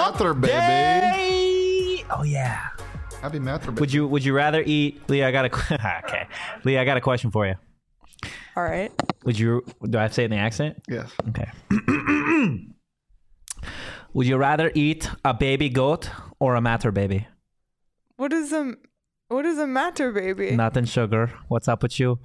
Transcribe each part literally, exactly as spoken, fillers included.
Mather, baby. Day. Oh yeah. Happy Mather, baby. Would you Would you rather eat, Leah? I got a okay. Leah, I got a question for you. All right. Would you? Do I have to say it in the accent? Yes. Okay. Would you rather eat a baby goat or a matter baby? What is a What is a matter, baby? Nothing sugar. What's up with you?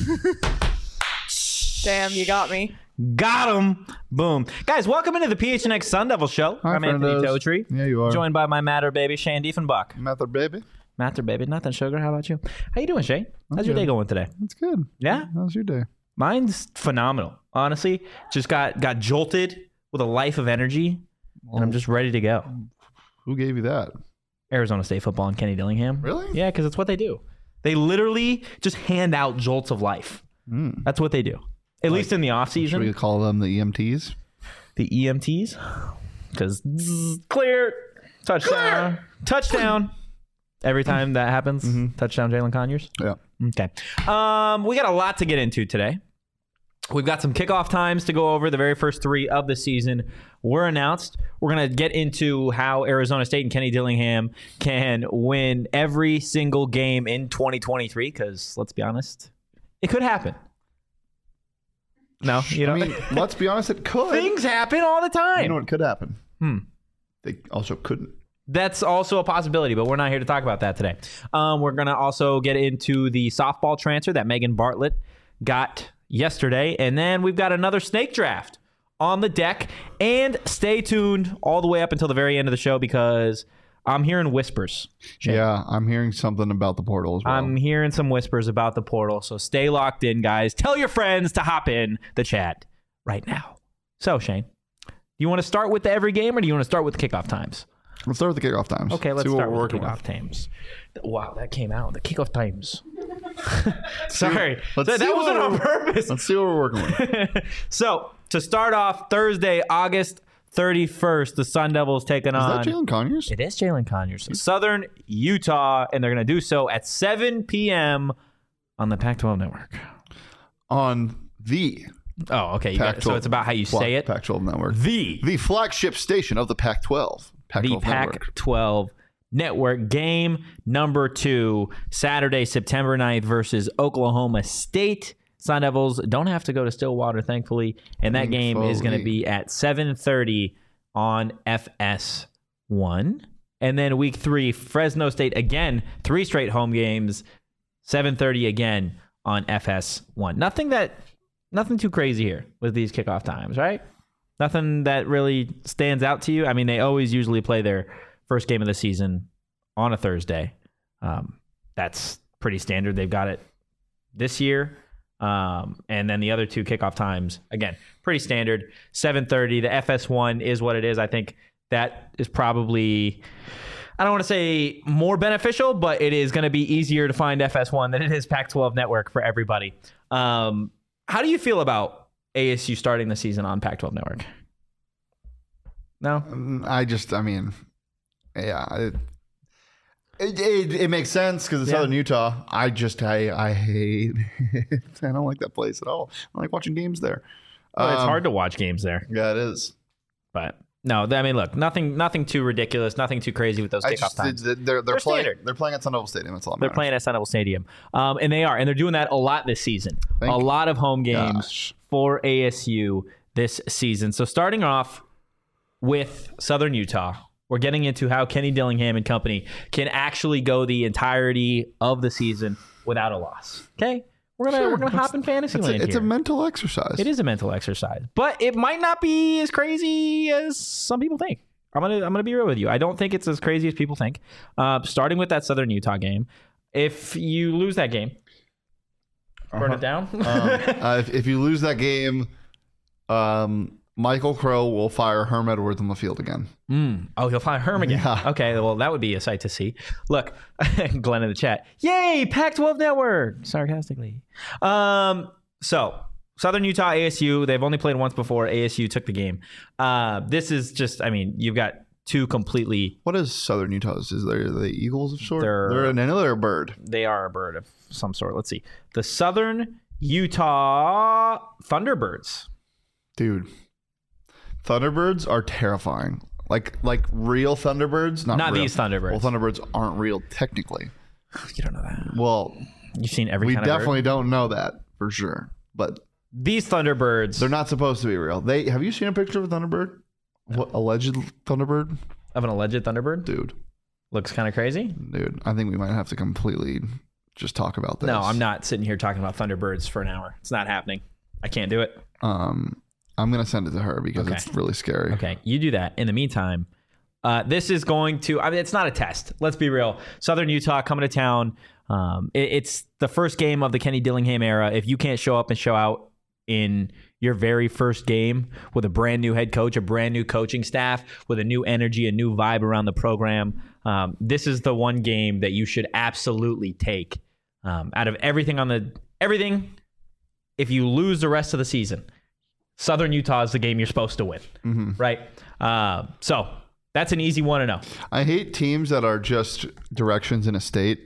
Damn, you got me. Got him. Boom. Guys, welcome into the P H N X Sun Devil Show. Hi, I'm Anthony friendos. Totri. Yeah, you are. Joined by my matter baby, Shane Diefenbach. Mather, baby. Matter baby. Nothing sugar. How about you? How you doing, Shane? How's I'm your good. day going today? That's good. Yeah? How's your day? Mine's phenomenal. Honestly, just got got jolted with a life of energy, and I'm just ready to go. Who gave you that? Arizona State football and Kenny Dillingham. Really? Yeah, because it's what they do. They literally just hand out jolts of life. Mm. That's what they do. At least in the off Should we season. call them the E M Ts? The E M Ts, because clear, touchdown, clear. touchdown. Every time that happens, Mm-hmm. touchdown, Jalen Conyers. Yeah. Okay. Um, we got a lot to get into today. We've got some kickoff times to go over. The very first three of the season were announced. We're going to get into how Arizona State and Kenny Dillingham can win every single game in twenty twenty-three, because let's be honest, it could happen. No, you know, I mean, let's be honest, it could. things happen all the time. You know what could happen? Hmm. They also couldn't. That's also a possibility, but we're not here to talk about that today. Um, we're going to also get into the softball transfer that Megan Bartlett got yesterday. And then we've got another snake draft on the deck. And stay tuned all the way up until the very end of the show, because I'm hearing whispers. Shane. Yeah, I'm hearing something about the portal as well. I'm hearing some whispers about the portal. So stay locked in, guys. Tell your friends to hop in the chat right now. So, Shane, do you want to start with the every game, or do you want to start with the kickoff times? Let's start with the kickoff times. Okay, let's See what start we're with the working kickoff times. Wow, that came out. The kickoff times. Sorry. let's that see that what wasn't on we're- purpose. Let's see what we're working with. So, to start off, Thursday, August thirty-first, the Sun Devils taking Is on... that Jalen Conyers? It is Jalen Conyers. Southern Utah, and they're going to do so at seven p.m. on the Pac twelve network. On the Oh, okay. You got it. So it's about how you say it. Pac twelve network. The The flagship station of the Pac twelve. Pac the twelve network. Pac twelve network. Game number two, Saturday, September ninth versus Oklahoma State. Sun Devils don't have to go to Stillwater, thankfully. And that game is going to be at seven thirty on F S one. And then week three, Fresno State again, three straight home games, seven thirty again on F S one. Nothing that, nothing too crazy here with these kickoff times, right? Nothing that really stands out to you. I mean, they always usually play their first game of the season on a Thursday. Um, that's pretty standard. They've got it this year. Um, and then the other two kickoff times, again, pretty standard. seven thirty. The F S one is what it is. I think that is probably, I don't want to say more beneficial, but it is going to be easier to find F S one than it is Pac twelve network for everybody. Um, how do you feel about A S U starting the season on Pac twelve network? No? Um, I just, I mean, yeah, it it, it, it makes sense because it's Yeah. Southern Utah. I just, I, I hate. it. I don't like that place at all. I like watching games there. Well, it's Um, hard to watch games there, Yeah, it is. but no, I mean, look, nothing, nothing too ridiculous, nothing too crazy with those I kickoff just, times. they're they're, They're playing. standard. They're playing at Sun Devil Stadium. That's all. that They're matters. playing at Sun Devil Stadium, um, and they are, and they're doing that a lot this season. Thank a lot of home games gosh. for A S U this season. So starting off with Southern Utah, we're getting into how Kenny Dillingham and company can actually go the entirety of the season without a loss. Okay, we're gonna Sure. we're gonna hop in fantasy It's, land a, it's here. a mental exercise. It is a mental exercise, but it might not be as crazy as some people think. I'm gonna I'm gonna be real with you. I don't think it's as crazy as people think. Uh, starting with that Southern Utah game, if you lose that game, burn Uh-huh. it down. um, uh, if, if you lose that game, um, Michael Crow will fire Herm Edwards on the field again. Mm. Oh, he'll find Herm again. Yeah. Okay, well, that would be a sight to see. Look, Glenn in the chat. Yay, Pac twelve network, sarcastically. Um, so, Southern Utah, A S U, they've only played once before. A S U took the game. Uh, this is just, I mean, you've got two completely, What is Southern Utah's? Is they the Eagles of sort? They're- They're an, another bird. they are a bird of some sort. Let's see. The Southern Utah Thunderbirds. Dude, Thunderbirds are terrifying. Like like real Thunderbirds, not Not real. these Thunderbirds. Well, Thunderbirds aren't real technically. You don't know that. Well, You've seen every we kind definitely of bird. don't know that for sure. But These Thunderbirds. they're not supposed to be real. They have you seen a picture of a Thunderbird? What alleged Thunderbird? Of an alleged Thunderbird? Dude, Looks kind of crazy. dude, I think we might have to completely just talk about this. No, I'm not sitting here talking about Thunderbirds for an hour. It's not happening. I can't do it. Um, I'm gonna send it to her because Okay. it's really scary. Okay, you do that. In the meantime, uh, this is going to, I mean, it's not a test. Let's be real. Southern Utah coming to town. Um, it, it's the first game of the Kenny Dillingham era. If you can't show up and show out in your very first game with a brand new head coach, a brand new coaching staff, with a new energy, a new vibe around the program, um, this is the one game that you should absolutely take um, out of everything on the everything. If you lose the rest of the season, Southern Utah is the game you're supposed to win, Mm-hmm. right? Uh, so that's an easy one to know. I hate teams that are just directions in a state,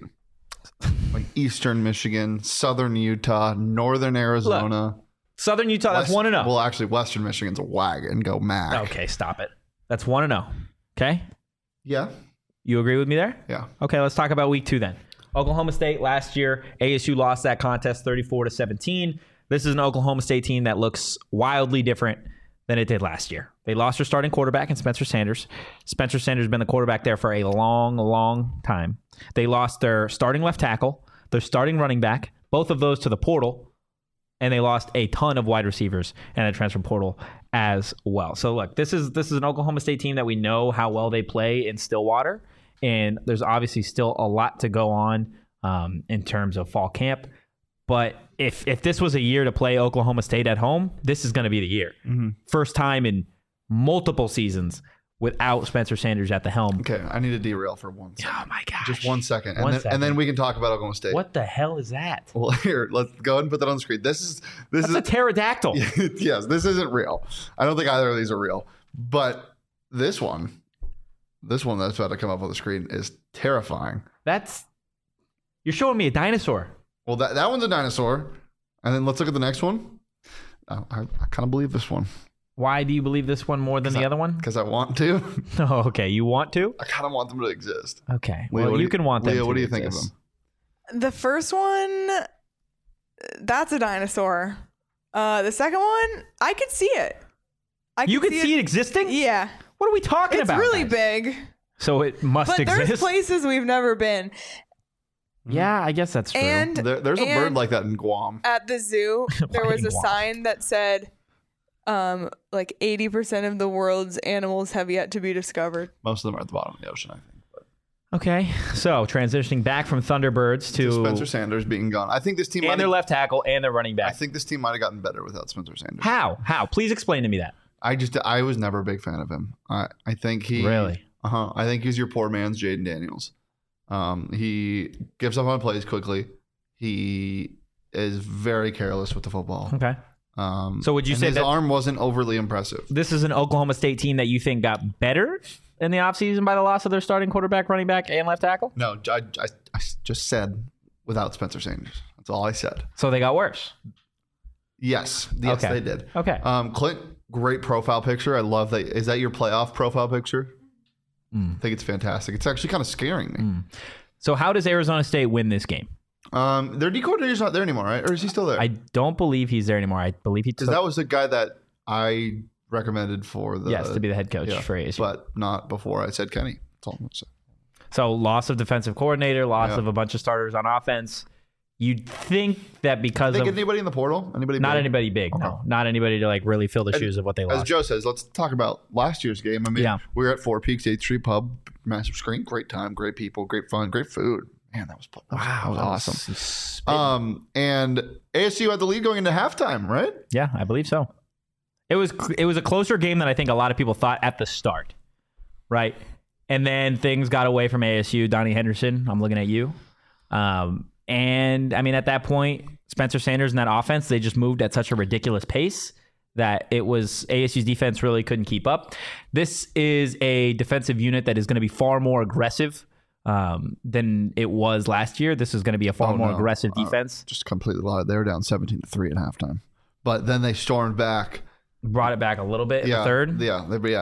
like Eastern Michigan, Southern Utah, Northern Arizona. Southern Utah, that's West- one to know. Well, actually, Western Michigan's a wagon. Go Mac. Okay, stop it. That's one to know. Okay, Yeah. you agree with me there? Yeah. Okay, let's talk about week two then. Oklahoma State last year, A S U lost that contest thirty-four to seventeen. This is an Oklahoma State team that looks wildly different than it did last year. They lost their starting quarterback in Spencer Sanders. Spencer Sanders has been the quarterback there for a long, long time. They lost their starting left tackle, their starting running back, both of those to the portal, and they lost a ton of wide receivers and a transfer portal as well. So look, this is this is an Oklahoma State team that we know how well they play in Stillwater, and there's obviously still a lot to go on um, in terms of fall camp. But if if this was a year to play Oklahoma State at home, this is going to be the year. Mm-hmm. First time in multiple seasons without Spencer Sanders at the helm. Okay, I need to derail for one second. Oh my gosh. Just one second. And, One then, second. and then we can talk about Oklahoma State. What the hell is that? Well, here, let's go ahead and put that on the screen. This is this That's is a pterodactyl. yes, this isn't real. I don't think either of these are real. But this one, this one that's about to come up on the screen is terrifying. That's you're showing me a dinosaur. Well, that, that one's a dinosaur. And then let's look at the next one. Uh, I, I kind of believe this one Why do you believe this one more than the I- other one? because I want to. Oh, okay. You want to? I kind of want them to exist. Okay. Leah, Well, what do you can want them Leah, to what do you think of exist. them? The first one, that's a dinosaur. Uh, the second one, I could see it. I You could see it existing? Yeah, What are we talking it's about? really guys? big. So it must But there's exist. places we've never been. Yeah, I guess that's true. And There, there's a bird and like that in Guam. at the zoo, there was a Fucking sign that said, um, like eighty percent of the world's animals have yet to be discovered. Most of them are at the bottom of the ocean, I think. But Okay, so transitioning back from Thunderbirds to Spencer Sanders being gone. I think this team and might their have, left tackle and their running I back. think this team might have gotten better without Spencer Sanders. How? How? Please explain to me that. I just I was never a big fan of him. I I think he Really? Uh-huh. I think he's your poor man's Jaden Daniels. Um, he gives up on plays quickly. He is very careless with the football. Okay. Um, So would you and say his that- arm wasn't overly impressive? This is an Oklahoma State team that you think got better in the offseason by the loss of their starting quarterback, running back, and left tackle? No, I, I, I just said without Spencer Sanders. That's all I said. So they got worse. Yes, yes, Okay. they did. Okay. Um, Clint, great profile picture. I love that. Is that your playoff profile picture? Mm. I think it's fantastic. It's actually kind of scaring me. Mm. So how does Arizona State win this game? Um, their D coordinator's not there anymore, right? Or is he still there? I don't believe he's there anymore. I believe he took Because that was the guy that I recommended for the yes to be the head coach yeah, for A S U. but not before I said Kenny. That's all I'm gonna say. So loss of defensive coordinator, loss Yeah. of a bunch of starters on offense. You'd think that because Think of anybody in the portal? Anybody? not big? anybody big, no, Okay. not anybody to like really fill the shoes of what they As lost. Joe says, let's talk about last year's game. I mean, Yeah. we were at Four Peaks eighth Street Pub, massive screen, great time, great people, great fun, great food. Man, that was that was, that was awesome. Spitting. Um, and A S U had the lead going into halftime, right? Yeah, I believe so. It was it was a closer game than I think a lot of people thought at the start, right? And then things got away from A S U. Donnie Henderson, I'm looking at you. Um, and I mean, at that point, Spencer Sanders and that offense, they just moved at such a ridiculous pace that it was A S U's defense really couldn't keep up. This is a defensive unit that is going to be far more aggressive um, than it was last year. This is going to be a far Oh, more no. aggressive Uh, defense. Just completely lied. They were down seventeen to three at halftime, but then they stormed back. Brought it back a little bit in yeah, the third. Yeah, they, yeah.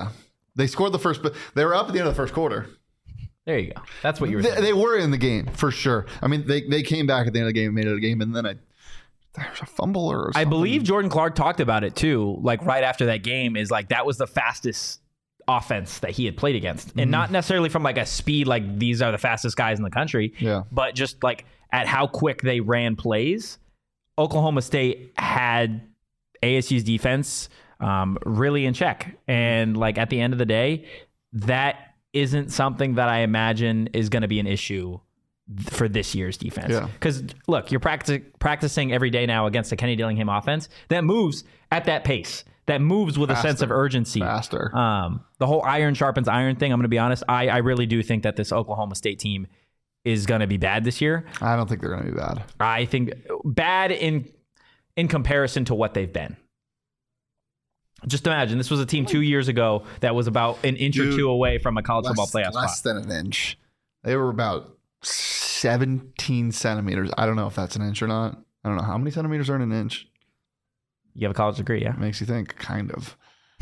They scored the first, but they were up at the end of the first quarter. There you go. That's what you were they, saying. they were in the game for sure. I mean, they, they came back at the end of the game and made it a game, and then I, there's a fumble or something. I believe Jordan Clark talked about it too, like right after that game, is like that was the fastest offense that he had played against. And mm-hmm. not necessarily from like a speed, like these are the fastest guys in the country, yeah. but just like at how quick they ran plays. Oklahoma State had A S U's defense um, really in check. And like at the end of the day, that isn't something that I imagine is going to be an issue for this year's defense. Because, yeah. look, you're practic- practicing every day now against the Kenny Dillingham offense that moves at that pace, that moves with Faster. a sense of urgency. Faster. Um, the whole iron sharpens iron thing, I'm going to be honest, I, I really do think that this Oklahoma State team is going to be bad this year. I don't think they're going to be bad. I think bad in in comparison to what they've been. Just imagine, this was a team two years ago that was about an inch Dude, or two away from a college less, football playoff less spot. Less than an inch. They were about seventeen centimeters. I don't know if that's an inch or not. I don't know. How many centimeters are in an inch? You have a college degree, yeah? Makes you think, kind of.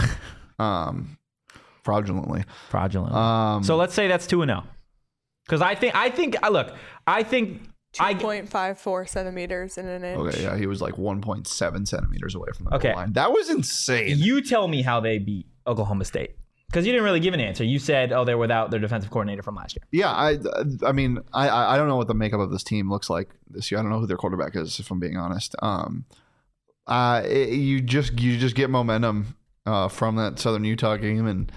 um, fraudulently. Fraudulently. Um, so let's say that's two and oh. Because I think, I think, look, I think... two point five four centimeters in an inch. Okay, yeah, he was like one point seven centimeters away from the okay. goal line. That was insane. You tell me how they beat Oklahoma State. Because you didn't really give an answer. You said, oh, they're without their defensive coordinator from last year. Yeah, I I mean, I, I don't know what the makeup of this team looks like this year. I don't know who their quarterback is, if I'm being honest. Um, uh, it, you just you just get momentum uh, from that Southern Utah game, and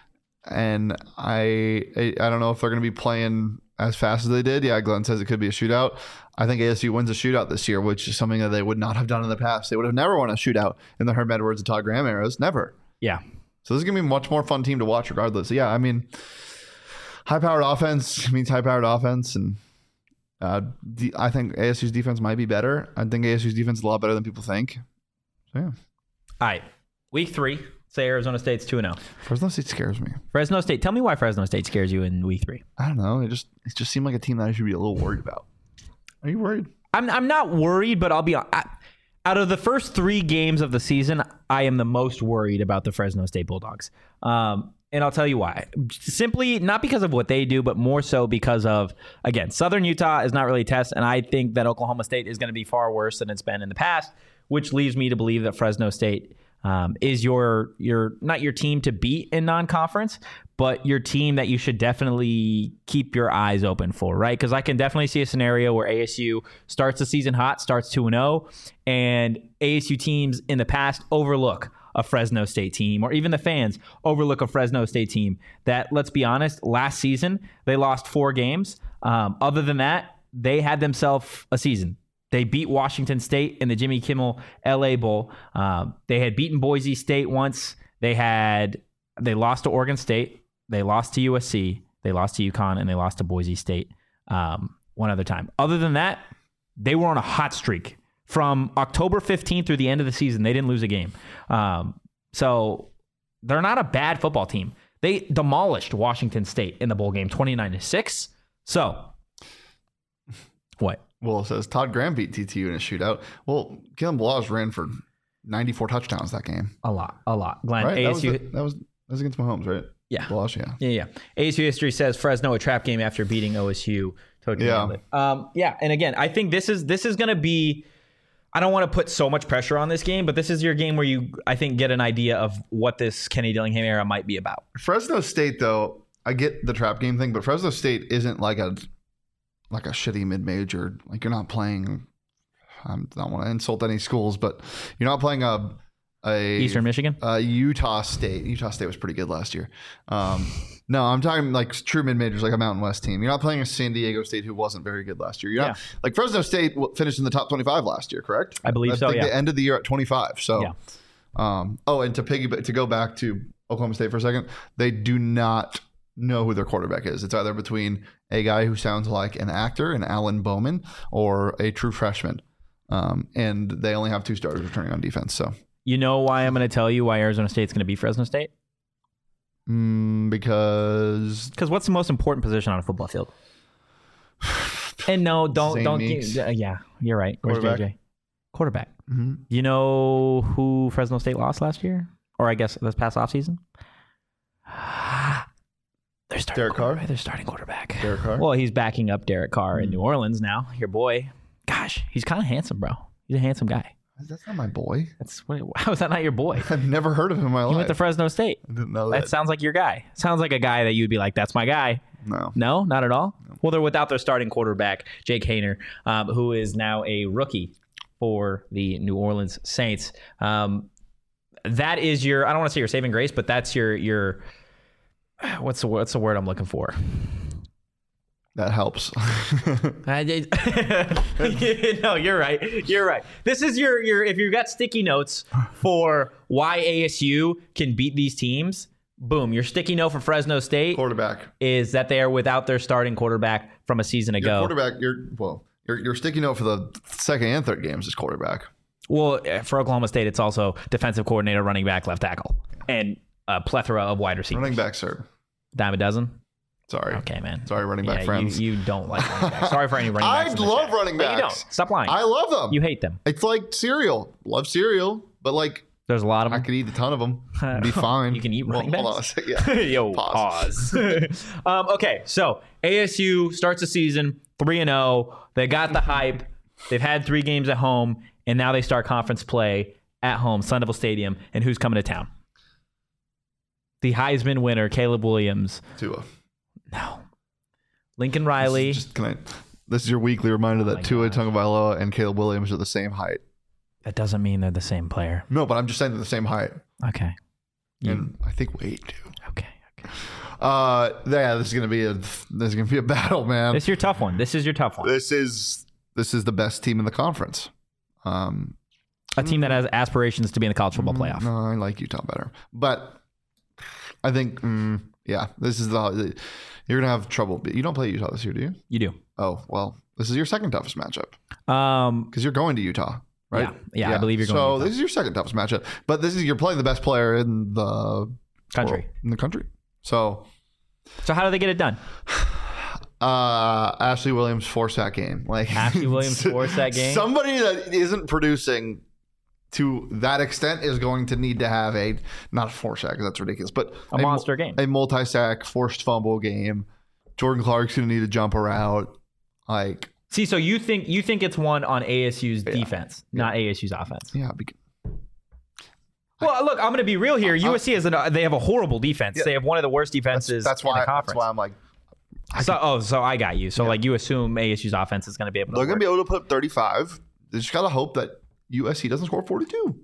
and I I don't know if they're going to be playing as fast as they did. Yeah, Glenn says it could be a shootout. I think A S U wins a shootout this year, which is something that they would not have done in the past. They would have never won a shootout in the Herm Edwards and Todd Graham eras. Never. Yeah. So this is going to be a much more fun team to watch regardless. Yeah, I mean, high-powered offense means high-powered offense, and uh, the, I think A S U's defense might be better. I think A S U's defense is a lot better than people think. So, yeah. All right. Week three, say Arizona State's two and oh. Fresno State scares me. Fresno State. Tell me why Fresno State scares you in week three. I don't know. It just it just seemed like a team that I should be a little worried about. Are you worried? I'm I'm not worried, but I'll be I, out of the first three games of the season, I am the most worried about the Fresno State Bulldogs. Um, and I'll tell you why. Simply not because of what they do, but more so because of, again, Southern Utah is not really a test, and I think that Oklahoma State is going to be far worse than it's been in the past, which leaves me to believe that Fresno State um, is your your not your team to beat in non-conference, but your team that you should definitely keep your eyes open for, right? Because I can definitely see a scenario where A S U starts the season hot, starts two and oh, and A S U teams in the past overlook a Fresno State team, or even the fans overlook a Fresno State team that, let's be honest, last season, they lost four games. Um, other than that, they had themselves a season. They beat Washington State in the Jimmy Kimmel L A Bowl. Um, they had beaten Boise State once. They had they lost to Oregon State. They lost to U S C. They lost to UConn, and they lost to Boise State um, one other time. Other than that, they were on a hot streak. From October fifteenth through the end of the season, they didn't lose a game. Um, so they're not a bad football team. They demolished Washington State in the bowl game, twenty-nine to six. So, what? Well, it says Todd Graham beat T T U in a shootout. Well, Kalen Ballage ran for ninety-four touchdowns that game. A lot, a lot. Glenn, right? A S U, that, was the, that, was, that was against Mahomes, right? Yeah. Ballage, yeah. Yeah, yeah. A S U history says Fresno a trap game after beating O S U. Totally yeah. Um, yeah, and again, I think this is this is going to be. I don't want to put so much pressure on this game, but this is your game where you, I think, get an idea of what this Kenny Dillingham era might be about. Fresno State, though, I get the trap game thing, but Fresno State isn't like a like a shitty mid-major. Like, you're not playing. I don't want to insult any schools, but you're not playing a a Eastern Michigan, uh, Utah State. Utah State was pretty good last year. Um, no, I'm talking like true mid-majors, like a Mountain West team. You're not playing a San Diego State who wasn't very good last year. You're not yeah. like Fresno State finished in the top twenty-five last year, correct? I believe I so. think Yeah, they ended the year at twenty-five. So, yeah. um, oh, and to piggyback to go back to Oklahoma State for a second, they do not know who their quarterback is. It's either between a guy who sounds like an actor, an Alan Bowman, or a true freshman. Um, and they only have two starters returning on defense. So. You know why I'm going to tell you why Arizona State's going to beat Fresno State? Mm, because because what's the most important position on a football field? And no, don't Zane don't. Meeks. Give, yeah, you're right. Where's Quarterback. J J? Quarterback. Mm-hmm. You know who Fresno State lost last year, or I guess this past offseason? They're starting Derek Carr? They're starting quarterback. Derek Carr? Well, he's backing up Derek Carr Mm. in New Orleans now. Your boy. Gosh, he's kind of handsome, bro. He's a handsome guy. That's not my boy. That's what, how is that not your boy? I've never heard of him in my He life. went to Fresno State. I didn't know That that. sounds like your guy. Sounds like a guy that you'd be like, that's my guy. No. No, not at all. Well, they're without their starting quarterback, Jake Haener, um, who is now a rookie for the New Orleans Saints. Um, that is your, I don't want to say your saving grace, but that's your, your, what's the, what's the word I'm looking for? That helps. I did. No, you're right. You're right. This is your, your, if you've got sticky notes for why A S U can beat these teams, boom, your sticky note for Fresno State Quarterback. is that they are without their starting quarterback from a season Your ago. quarterback, your well, your your sticky note for the second and third games is quarterback. Well, for Oklahoma State, it's also defensive coordinator, running back, left tackle, and a plethora of wide receivers. Running back, sir. Dime a dozen? Sorry. Okay, man. Sorry, running back yeah, friends. You, you don't like running backs. Sorry for any running I backs. in the love chat. running No, you backs. don't. Stop lying. I love them. You hate them. It's like cereal. Love cereal, but like There's a lot of I them. could eat a ton of them. It'd be fine. You can eat Well, running hold on a backs? second. Yeah. Yo, Pause. pause. um, okay, so A S U starts the season three and oh. They got the hype. They've had three games at home, and now they start conference play at home, Sun Devil Stadium. And who's coming to town? The Heisman winner, Caleb Williams. Tua. No. Lincoln Riley. This is, just, can I, this is your weekly reminder my that Tua gosh. Tagovailoa and Caleb Williams are the same height. That doesn't mean they're the same player. No, but I'm just saying they're the same height. Okay. You- And I think weight too. okay. Okay. Uh, yeah, this is gonna be a this is gonna be a battle, man. This is your tough one. This is your tough one. This is this is the best team in the conference. Um, A team that has aspirations to be in the college football playoff. No, I like Utah better, but I think mm, yeah, this is the you're gonna have trouble. You don't play Utah this year, do you? You do. Oh well, this is your second toughest matchup Um, because you're going to Utah, right? Yeah, yeah, I believe you're going to So Utah. this is your second toughest matchup, but this is you're playing the best player in the Country. world- in the country. So so how do they get it done? uh, Ashley Williams four sack game, like Ashley Williams four sack game? Somebody that isn't producing to that extent is going to need to have a not a four sack because that's ridiculous, but A monster game. a multi sack, forced fumble game. Jordan Clark's going to need to jump a route, like. See, so you think you think it's one on A S U's defense, not A S U's offense. Yeah, because Well, look, I'm going to be real here. U S C has an, they have a horrible defense. Yeah. They have one of the worst that's, defenses that's in why the conference. that's why I'm like so, oh, so I got you. So, like, you assume A S U's offense is going to be able to. they're going work. to be able to put up thirty-five. They just got to hope that U S C doesn't score forty-two.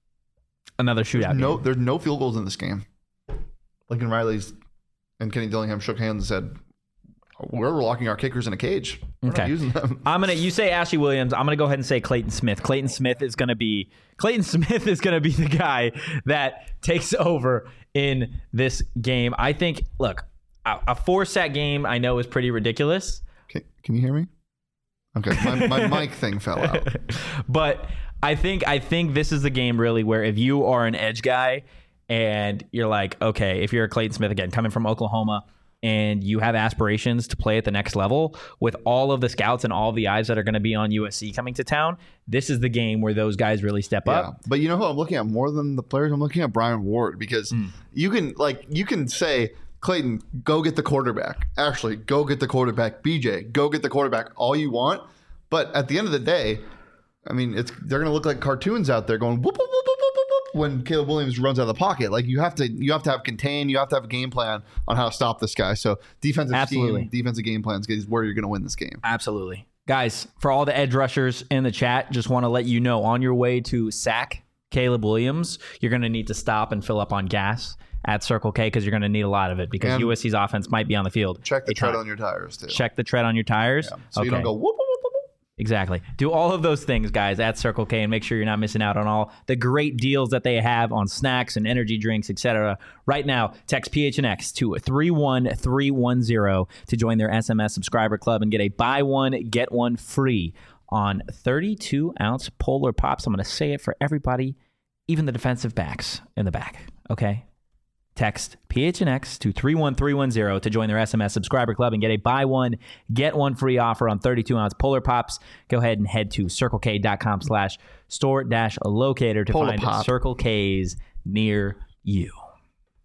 Another shootout. No, game. there's no field goals in this game. Lincoln Riley's and Kenny Dillingham shook hands and said, "We're locking our kickers in a cage. We're Okay. not using them." I'm gonna. You say Ashley Williams. I'm gonna go ahead and say Clayton Smith. Clayton Smith is gonna be. Clayton Smith is gonna be the guy that takes over in this game. I think. Look, a, a four sack game. I know is pretty ridiculous, Can, can you hear me? Okay, my, my mic thing fell out. but I think. I think this is the game really where if you are an edge guy and you're like, okay, if you're a Clayton Smith again coming from Oklahoma, and you have aspirations to play at the next level with all of the scouts and all the eyes that are going to be on U S C coming to town, this is the game where those guys really step Yeah, up. but you know who I'm looking at more than the players? I'm looking at Brian Ward because Hmm. you can like you can say, Clayton, go get the quarterback. Actually, go get the quarterback. B J, go get the quarterback. All you want, but at the end of the day, I mean, it's they're going to look like cartoons out there going whoop whoop whoop whoop whoop whoop whoop when Caleb Williams runs out of the pocket. Like you have to you have to have contain. You have to have a game plan on how to stop this guy. So defensive Absolutely. scheme, defensive game plans is where you're going to win this game. Absolutely. Guys, for all the edge rushers in the chat, just want to let you know on your way to sack Caleb Williams, you're going to need to stop and fill up on gas at Circle K because you're going to need a lot of it because And U S C's offense might be on the field. Check the a tread ton. on your tires too. Check the tread on your tires. Yeah. So you don't go whoop whoop whoop whoop. whoop. Exactly. Do all of those things, guys, at Circle K and make sure you're not missing out on all the great deals that they have on snacks and energy drinks, et cetera. Right now, text P H N X to three one three one zero to join their S M S subscriber club and get a buy one, get one free on thirty-two ounce Polar Pops. I'm going to say it for everybody, even the defensive backs in the back, okay? Text P H N X to three one three one zero to join their S M S subscriber club and get a buy one, get one free offer on thirty-two ounce Polar Pops. Go ahead and head to circlek.com slash store dash locator to Polar find Pop. Circle K's near you.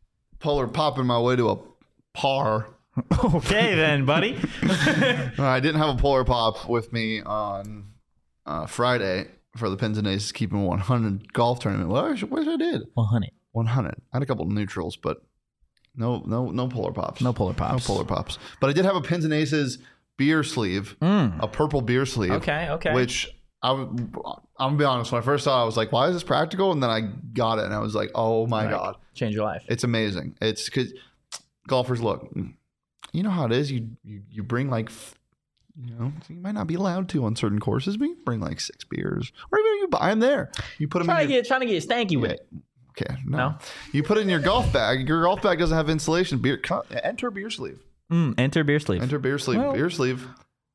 polar popping my way to a par. Okay, then, buddy. I didn't have a polar pop with me on uh, Friday for the Pins and Aces Keeping one hundred golf tournament. Well, I wish, wish I did. one hundred. one hundred. I had a couple of neutrals, but no, no, no polar pops. No polar pops. No polar pops. But I did have a Pins and Aces beer sleeve, Mm. a purple beer sleeve. Okay, okay. Which I, I'm gonna be honest. When I first saw it, I was like, "Why is this practical?" And then I got it, and I was like, "Oh my Like, god, change your life. it's amazing!" It's because golfers look. You know how it is. You you, you bring like, you know, you might not be allowed to on certain courses, but you bring like six beers, or even you buy them there. You put them Trying in to your, get trying to get stanky with it. Okay, no. No? You put it in your golf bag. Your golf bag doesn't have insulation. Beer, enter beer sleeve. Mm, enter beer sleeve. Enter beer sleeve. Well- beer sleeve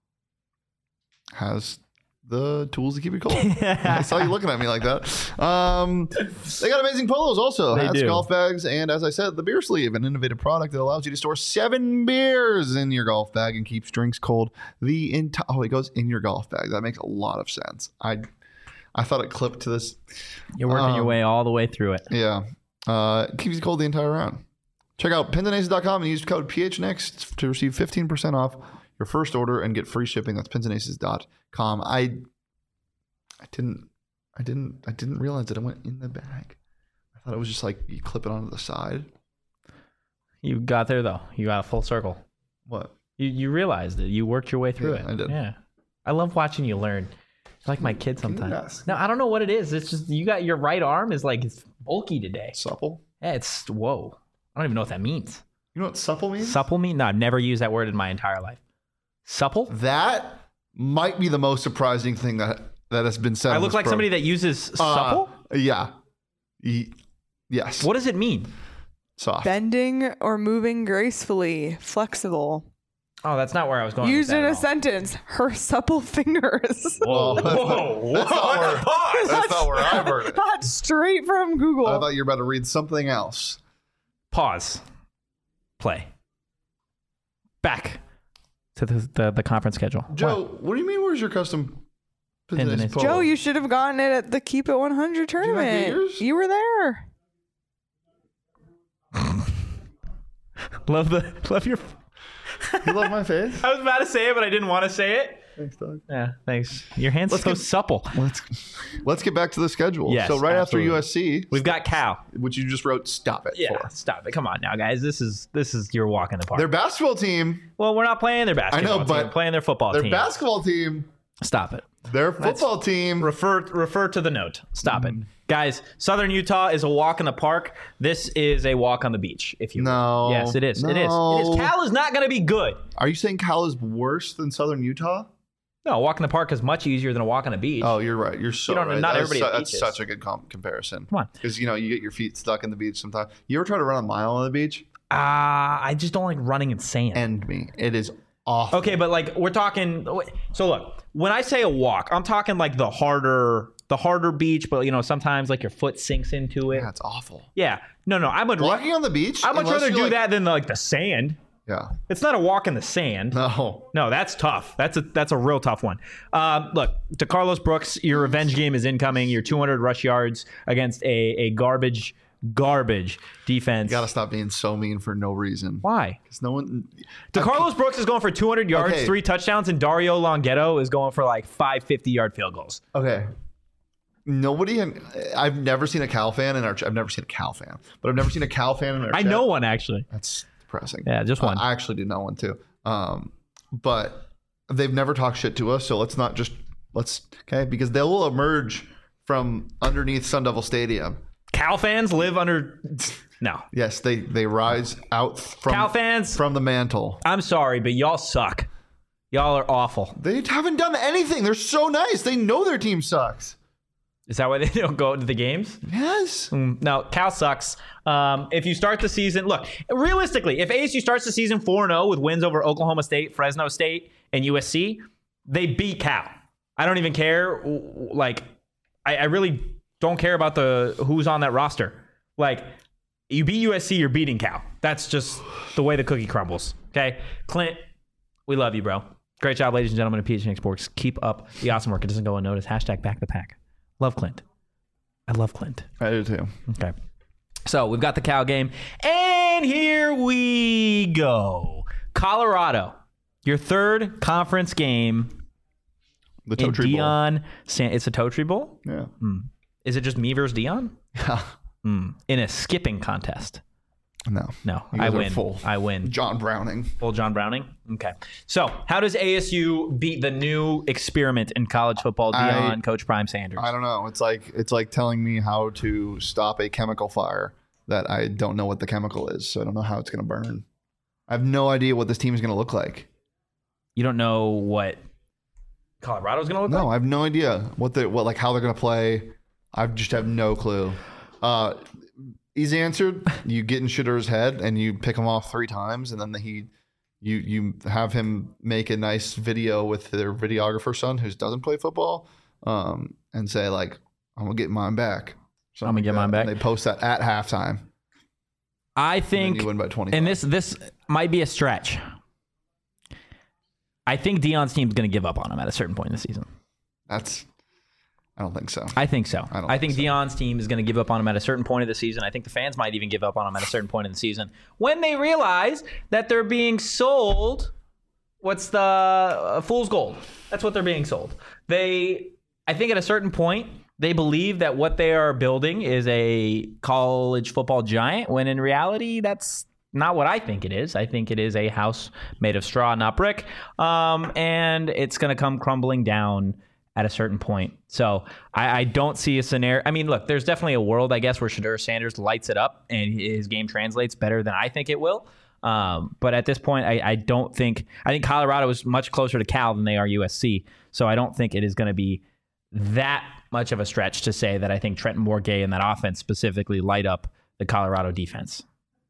has the tools to keep it cold. I saw you looking at me like that. Um, they got amazing polos also. They Hats, do. golf bags, and as I said, the beer sleeve, an innovative product that allows you to store seven beers in your golf bag and keeps drinks cold the entire. Oh, it goes in your golf bag. That makes a lot of sense. I, I thought it clipped to this. You're working your Um, way all the way through it. Yeah. Uh, it keeps you cold the entire round. Check out pins and aces dot com and use code P H N X to receive fifteen percent off your first order and get free shipping. That's pins and aces dot com. I I didn't I didn't I didn't realize that it went in the bag. I thought it was just like you clip it onto the side. You got there though. You got a full circle. What? You you realized it. You worked your way through Yeah, it. I did. Yeah. I love watching you learn. You're like my kid Can you sometimes. not- No, I don't know what it is. It's just you got your right arm is like it's bulky today. Supple? Yeah, it's whoa. I don't even know what that means. You know what supple means? Supple mean? No, I've never used that word in my entire life. Supple? That might be the most surprising thing that that has been said. I on look this like pro- somebody that uses Uh, supple? Yeah. Ye- yes. What does it mean? Soft. Bending or moving gracefully, flexible. Oh, that's not where I was going. Used with in that a at all. sentence. Her supple fingers. Whoa, That's not- whoa, whoa. that's not where- Pause. That's not where I've heard it. That's straight from Google. I thought you were about to read something else. Pause. Play. Back to the, the, the conference schedule. Joe, What? what do you mean? Where's your custom Pins and business aces. polo? Joe, you should have gotten it at the Keep It one hundred you not get tournament. yours? You were there. Love the love your. You love my face? I was about to say it, but I didn't want to say it. Thanks, Doug. Yeah, thanks. Your hands Let's so get- supple. Let's let's get back to the schedule. Yes, so right absolutely. after U S C, We've got Cal. which you just wrote, stop it Yeah, for. stop it. Come on now, guys. This is this is your walk in the park. Their basketball team, well, we're not playing their basketball team. but We're playing their football their team. basketball team, Stop it. their football team. Refer refer to the note. Stop Mm. it. Guys, Southern Utah is a walk in the park. This is a walk on the beach, if you will. No. Yes, it is. It is. It No. is. Cal is not going to be good. Are you saying Cal is worse than Southern Utah? No, a walk in the park is much easier than a walk on the beach. Oh, you're right. You're so You don't- right. not That is everybody su- at that's beaches. such a good com- comparison. Come on. Because, you know, you get your feet stuck in the beach sometimes. You ever try to run a mile on the beach? Ah, I just don't like running in sand. End me. It is awful. Okay, but like we're talking. So look, when I say a walk, I'm talking like the harder, the harder beach. But you know, sometimes like your foot sinks into it. Yeah, it's awful. Yeah. No, no. I would. Walking on the beach? I would unless rather you're do like- that than like the sand. Yeah. It's not a walk in the sand. No. No, that's tough. That's a that's a real tough one. Um, look, to Carlos Brooks, your revenge game is incoming. Your two hundred rush yards against a a garbage garbage defense. You gotta stop being so mean for no reason. Why? Because no one. To Carlos Brooks is going for two hundred yards, Okay. three touchdowns, and Dario Longhetto is going for like five fifty-yard field goals. Okay. Nobody. I've never seen a Cal fan in our. I've never seen a Cal fan, but I've never seen a Cal fan in our. I chat. know one actually. That's depressing. Yeah, just one. I actually do know one too. Um, but they've never talked shit to us, so let's not just let's okay because they will emerge from underneath Sun Devil Stadium. Cal fans live under. No. Yes, they they rise out from Cal fans, from the mantle. I'm sorry, but y'all suck. Y'all are awful. They haven't done anything. They're so nice. They know their team sucks. Is that why they don't go to the games? Yes. Mm, No, Cal sucks. Um, if you start the season, look, realistically, if A S U starts the season four and oh with wins over Oklahoma State, Fresno State, and U S C, they beat Cal. I don't even care. Like, I, I really don't care about the who's on that roster. Like, you beat U S C, you're beating Cal. That's just the way the cookie crumbles. Okay? Clint, we love you, bro. Great job, ladies and gentlemen of P H N X Sports. Keep up the awesome work. It doesn't go unnoticed. Hashtag back the pack. Love Clint. I love Clint. I do too. Okay. So we've got the Cal game, and here we go. Colorado, your third conference game. The Totri Bowl. Deion, San- it's a Totri Bowl? Yeah. Mm. Is it just me versus Deion? Yeah. Mm. In a skipping contest? No. No. You I guys are win. full I win. John Browning. Full John Browning? Okay. So how does A S U beat the new experiment in college football, Deion, I- Coach Prime Sanders? I don't know. It's like it's like telling me how to stop a chemical fire that I don't know what the chemical is, so I don't know how it's going to burn. I have no idea what this team is going to look like. You don't know what Colorado's going to look No, like? I have no idea what the what like how they're going to play. I just have no clue. Uh, easy answer: you get in Shitter's head and you pick him off three times, and then he, you you have him make a nice video with their videographer son who doesn't play football, um, and say like, "I'm gonna get mine back." I'm gonna like get that. mine back. And they post that at halftime. I And think, then you win by twenty. and this this might be a stretch. I think Deion's team's going to give up on him at a certain point in the season. That's. I don't think so. I think so. I don't I think think so. Deion's team is going to give up on him at a certain point of the season. I think the fans might even give up on him at a certain point in the season when they realize that they're being sold. What's the uh, fool's gold? That's what they're being sold. They, I think, at a certain point, they believe that what they are building is a college football giant. When in reality, that's not what I think it is. I think it is a house made of straw, not brick, um, and it's going to come crumbling down at a certain point. So I, I don't see a scenario. I mean, look, there's definitely a world, I guess, where Shedeur Sanders lights it up and his game translates better than I think it will. Um, but at this point, I, I don't think – I think Colorado is much closer to Cal than they are U S C. So I don't think it is going to be that much of a stretch to say that I think Trenton Bourguet and that offense specifically light up the Colorado defense.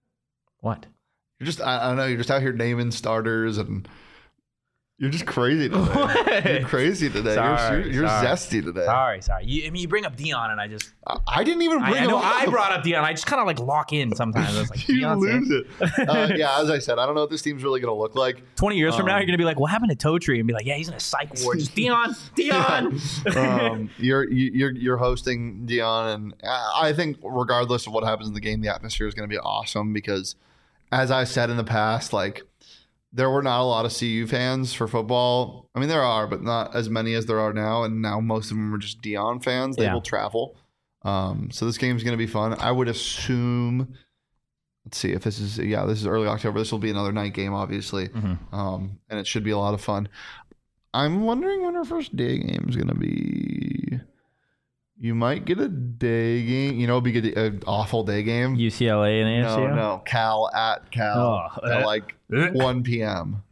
What? You're just. I, I don't know. You're just out here naming starters and. You're just crazy today. What? You're crazy today. Sorry, you're you're sorry. zesty today. Sorry, sorry. You, I mean, you bring up Deion, and I just I, I didn't even bring I, I him know up. I brought up Deion. I just kind of like lock in sometimes. I was like, You Deion lose Sanders? it. Uh, yeah, as I said, I don't know what this team's really going to look like. Twenty years from now, Um, you're gonna be like, "What happened to Totri?" And be like, "Yeah, he's in a psych ward." Just Deion, Deion. um, you're you- you're you're hosting Dion, and I think regardless of what happens in the game, the atmosphere is going to be awesome because, as I said in the past, like there were not a lot of C U fans for football. I mean, there are, but not as many as there are now. And now most of them are just Dion fans. They Yeah. will travel. Um, so this game's going to be fun. I would assume. Let's see if this is yeah this is early October. This will be another night game, obviously, Mm-hmm. um, and it should be a lot of fun. I'm wondering when our first day game is going to be. You might get a day game. You know, it'd be good, an awful day game. U C L A and A S U. No, no, Cal at Cal Oh, at uh, like uh. one p.m.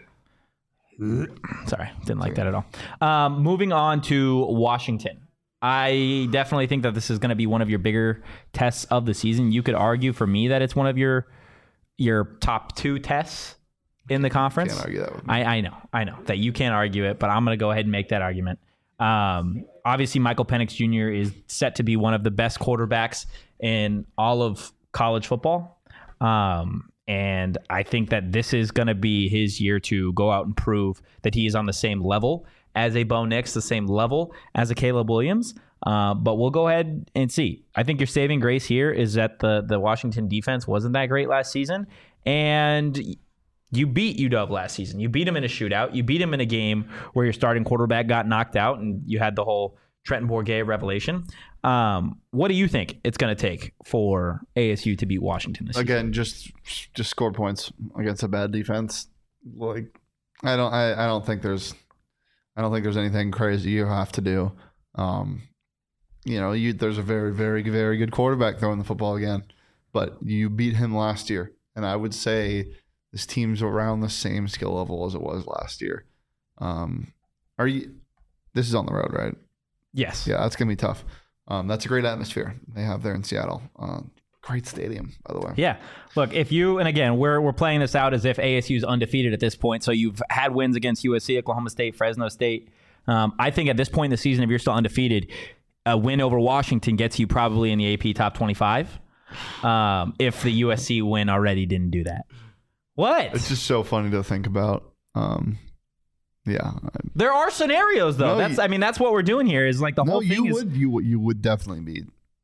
Sorry, didn't like that at all. Um, moving on to Washington. I definitely think that this is going to be one of your bigger tests of the season. You could argue for me that it's one of your your top two tests in the conference. Can't argue that with me. I, I know, I know that you can't argue it, but I'm going to go ahead and make that argument. Um, obviously, Michael Penix Junior is set to be one of the best quarterbacks in all of college football. Um, and I think that this is going to be his year to go out and prove that he is on the same level as a Bo Nix, the same level as a Caleb Williams. Uh, but we'll go ahead and see. I think your saving grace here is that the, the Washington defense wasn't that great last season. And you beat U W last season. You beat him in a shootout. You beat him in a game where your starting quarterback got knocked out and you had the whole Trenton Bourguet revelation. Um, what do you think it's going to take for A S U to beat Washington this season? Again, just just score points against a bad defense. Like I don't I, I don't think there's I don't think there's anything crazy you have to do. Um, you know, you there's a very very very good quarterback throwing the football again, but you beat him last year, and I would say this team's around the same skill level as it was last year. Um, are you? This is on the road, right? Yes. Yeah, that's gonna be tough. Um, that's a great atmosphere they have there in Seattle. Uh, great stadium, by the way. Yeah. Look, if you, and again, we're we're playing this out as if A S U is undefeated at this point. So you've had wins against U S C, Oklahoma State, Fresno State. Um, I think at this point in the season, if you're still undefeated, a win over Washington gets you probably in the A P top twenty-five. Um, if the U S C win already didn't do that. What? It's just so funny to think about. Um, yeah. There are scenarios though. No, that's you- I mean that's what we're doing here is like the No, whole thing you is would you would you would definitely beat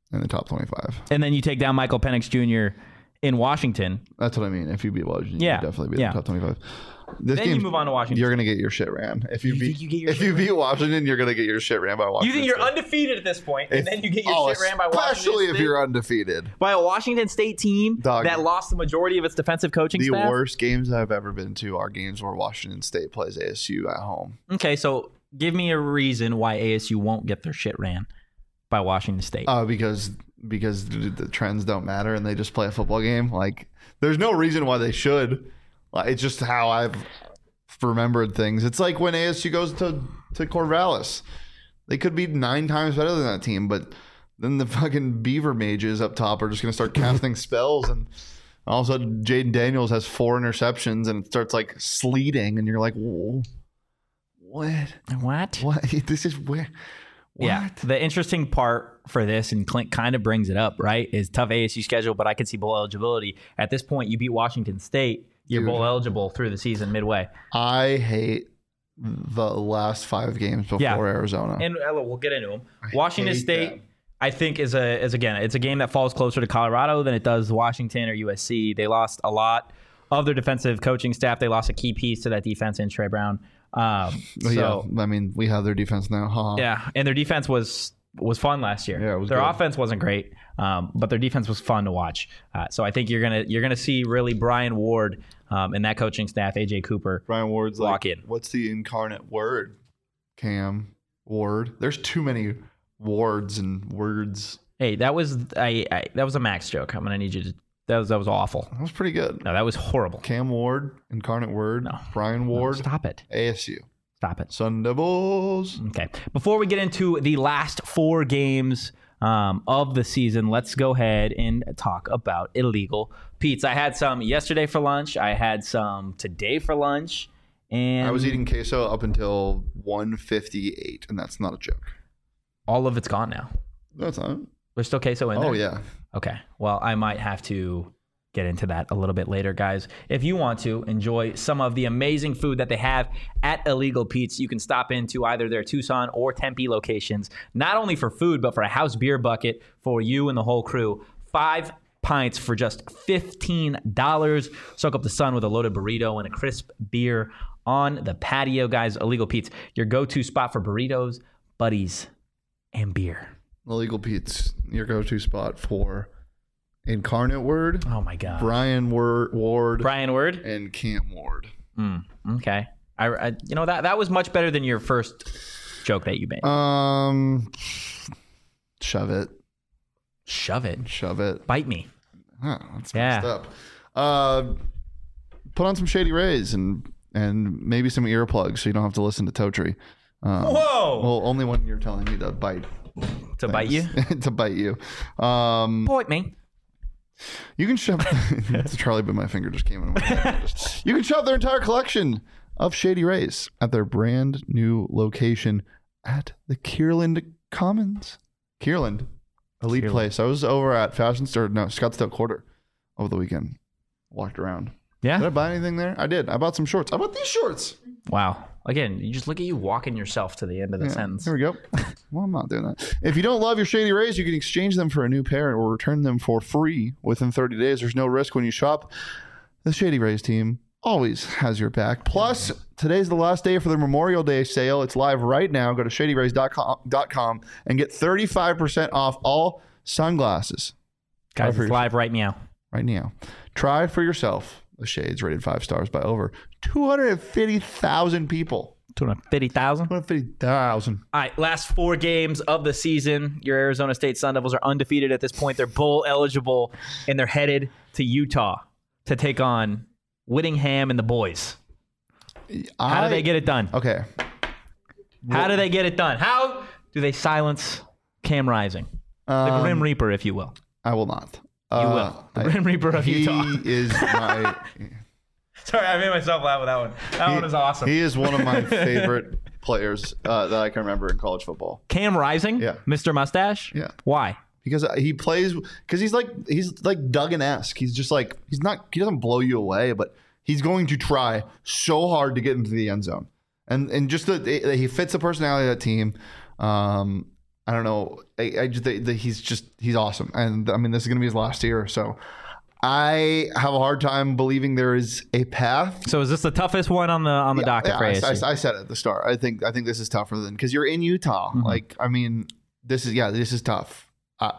in the top twenty-five. And then you take down Michael Penix Junior in Washington. That's what I mean. If you beat Washington, yeah. you definitely be yeah. in the top twenty-five. This then you move on to Washington. You're gonna get your shit ran. If you, you beat, you get your if you beat Washington, you're gonna get your shit ran by Washington. You think you're State. undefeated at this point, and if, then you get your oh, shit ran by Washington especially if State? you're undefeated By a Washington State team Dog. that lost the majority of its defensive coaching the staff? worst games I've ever been to are games where Washington State plays A S U at home. Okay, so give me a reason why A S U won't get their shit ran by Washington State. Uh, because because the, the trends don't matter and they just play a football game. Like, there's no reason why they should. Like, it's just how I've remembered things. It's like when A S U goes to, to Corvallis. They could be nine times better than that team, but then the fucking Beaver Mages up top are just going to start casting spells, and all of a sudden Jaden Daniels has four interceptions and it starts like sleeting, and you're like, whoa, what? What? What? This is where... What? Yeah. The interesting part for this, and Clint kind of brings it up, right, is tough A S U schedule, but I could see bowl eligibility. At this point, you beat Washington State. You're Dude. bowl eligible through the season midway. I hate the last five games before Yeah. Arizona. And uh, we'll get into them. Washington hate State, them. I think, is a is again, it's a game that falls closer to Colorado than it does Washington or U S C. They lost a lot of their defensive coaching staff. They lost a key piece to that defense in Trey Brown. Um, so yeah, I mean, we have their defense now. Huh? yeah, and their defense was was fun last year. Yeah, it was their good. offense wasn't great, um, but their defense was fun to watch. Uh, so I think you're gonna you're gonna see really Brian Ward um, and that coaching staff, A J Cooper. Brian Ward's Lock like, in. what's the incarnate word? Cam Ward. There's too many wards and words. Hey, that was I, I that was a Max joke. I'm gonna need you to. That was that was awful. That was pretty good. No, that was horrible. Cam Ward, incarnate word. No. Brian No, Ward, stop it. A S U. Stop it. Sun Devils. Okay. Before we get into the last four games um, of the season, let's go ahead and talk about illegal Pete's. I had some yesterday for lunch. I had some today for lunch. And I was eating queso up until one fifty-eight, and that's not a joke. all of it's gone now. That's not. There's still queso in there? Oh, yeah. Okay. Well, I might have to get into that a little bit later, guys. If you want to enjoy some of the amazing food that they have at Illegal Pete's, you can stop into either their Tucson or Tempe locations, not only for food, but for a house beer bucket for you and the whole crew. Five pints for just fifteen dollars. Soak up the sun with a loaded burrito and a crisp beer on the patio, guys. Illegal Pete's, your go-to spot for burritos, buddies, and beer. Illegal Pete's, your go-to spot for incarnate word, Oh, my God. Brian Ward, Ward Brian Ward? and Cam Ward. Mm, okay. I, I, you know, that, that was much better than your first joke that you made. Um, shove it. Shove it. Shove it. Bite me. Huh, that's Yeah. messed up. Uh, put on some Shady Rays and and maybe some earplugs so you don't have to listen to Totri. Um, Whoa! Well, only when you're telling me to bite. to bite you? things. to bite you. Um, Bite me. you can shove. It's Charlie, but my finger just came in. My head. You can shove their entire collection of Shady Rays at their brand new location at the Kierland Commons. Kierland, elite Kierland. place. I was over at Fashion Store, no, Scottsdale Quarter over the weekend. Walked around. Did I Yeah? buy anything there? I did. I bought some shorts. I bought these shorts. Wow. Again, you just look at you walking yourself to the end of the Yeah, sentence. Here we go. Well, I'm not doing that. If you don't love your Shady Rays, you can exchange them for a new pair or return them for free within thirty days. There's no risk when you shop. The Shady Rays team always has your back. Plus, today's the last day for their Memorial Day sale. It's live right now. Go to shady rays dot com and get thirty-five percent off all sunglasses. Guys, for it's your- live right now. right now. Try for yourself. The Shades rated five stars by over two hundred fifty thousand people. two hundred fifty thousand. two hundred fifty thousand. All right, last four games of the season. Your Arizona State Sun Devils are undefeated at this point. They're bowl eligible, and they're headed to Utah to take on Whittingham and the boys. How do they get it done? Okay. How do they get it done? How do they silence Cam Rising? The Um, Grim Reaper, if you will. I will not. You Uh, will. The I- Grim Reaper of he Utah. is my. Sorry, I made myself laugh with that one. That one is awesome. He is one of my favorite players uh, that I can remember in college football. Cam Rising? Yeah. Mister Mustache? Yeah. Why? Because he plays, because he's like he's like Duggan-esque. He's just like he's not. He doesn't blow you away, but he's going to try so hard to get into the end zone, and and just that he fits the personality of that team. Um, I don't know. I, I just the, the, he's just he's awesome, and I mean this is gonna be his last year, so I have a hard time believing there is a path. So is this the toughest one on the on the yeah, docket yeah, for A S U? I, I, I said it at the start. I think I think this is tougher than because you're in Utah. Mm-hmm. Like I mean, this is yeah, this is tough. Uh,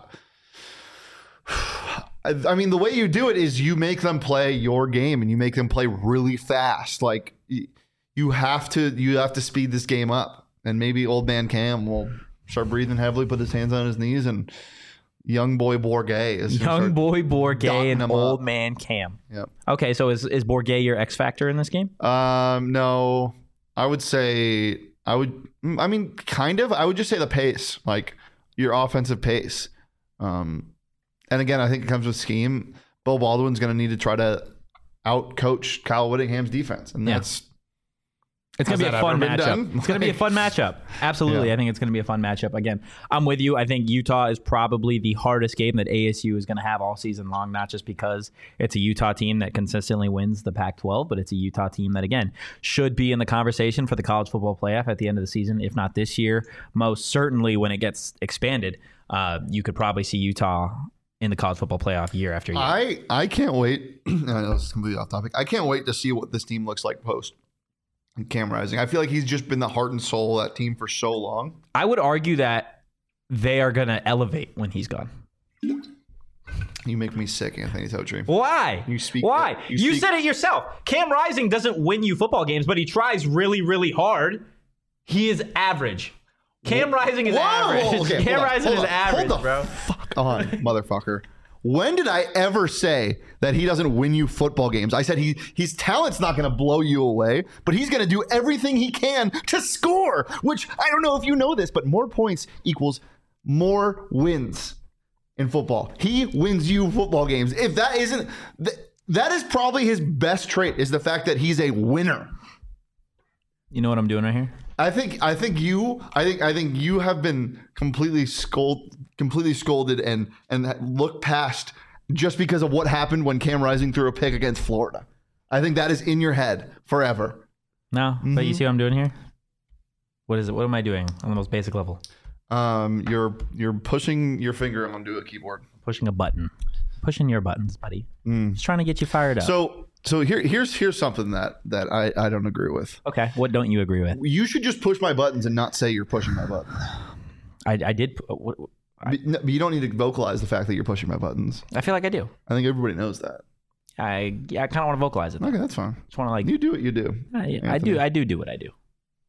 I mean, the way you do it is you make them play your game and you make them play really fast. Like you have to, you have to speed this game up. And maybe old man Cam will start breathing heavily, put his hands on his knees, and young boy Bourguet is young boy Bourguet and old up. man Cam. Yep. Okay, so is is Bourguet your X factor in this game? Um, no, I would say I would. I mean, kind of. I would just say the pace, like your offensive pace. Um. And again, I think it comes with scheme. Bill Baldwin's going to need to try to out-coach Kyle Whittingham's defense. And that's... It's going to be a fun matchup. It's going to be a fun matchup. Absolutely. Yeah. I think it's going to be a fun matchup. Again, I'm with you. I think Utah is probably the hardest game that A S U is going to have all season long, not just because it's a Utah team that consistently wins the Pac twelve, but it's a Utah team that, again, should be in the conversation for the college football playoff at the end of the season, if not this year. Most certainly when it gets expanded, uh, you could probably see Utah in the college football playoff year after year. I, I can't wait. I know this is completely off topic. I can't wait to see what this team looks like post Cam Rising. I feel like he's just been the heart and soul of that team for so long. I would argue that they are going to elevate when he's gone. You make me sick, Anthony Totri. Why? You speak. Why? You, you speak, said it yourself. Cam Rising doesn't win you football games, but he tries really, really hard. He is average. Cam Rising is Whoa, average. okay, Cam on, Rising is on, average, hold the bro. Fuck on, motherfucker. When did I ever say that he doesn't win you football games? I said he his talent's not going to blow you away, but he's going to do everything he can to score, which I don't know if you know this, but more points equals more wins in football. He wins you football games. If that isn't, th- that is probably his best trait, is the fact that he's a winner. You know what I'm doing right here? I think I think you I think I think you have been completely scold completely scolded and and look past just because of what happened when Cam Rising threw a pick against Florida. I think that is in your head forever. No, mm-hmm. But you see what I'm doing here? What is it? What am I doing on the most basic level? Um, you're you're pushing your finger onto a keyboard, pushing a button, pushing your buttons, buddy. Mm. Just trying to get you fired up. So. So here, here's here's something that, that I, I don't agree with. Okay, what don't you agree with? You should just push my buttons and not say you're pushing my buttons. I, I did. What, I, but, no, but you don't need to vocalize the fact that you're pushing my buttons. I feel like I do. I think everybody knows that. I yeah, I kind of want to vocalize it. Though. Okay, that's fine. Just want to like you do what you do. I, I do. I do do what I do.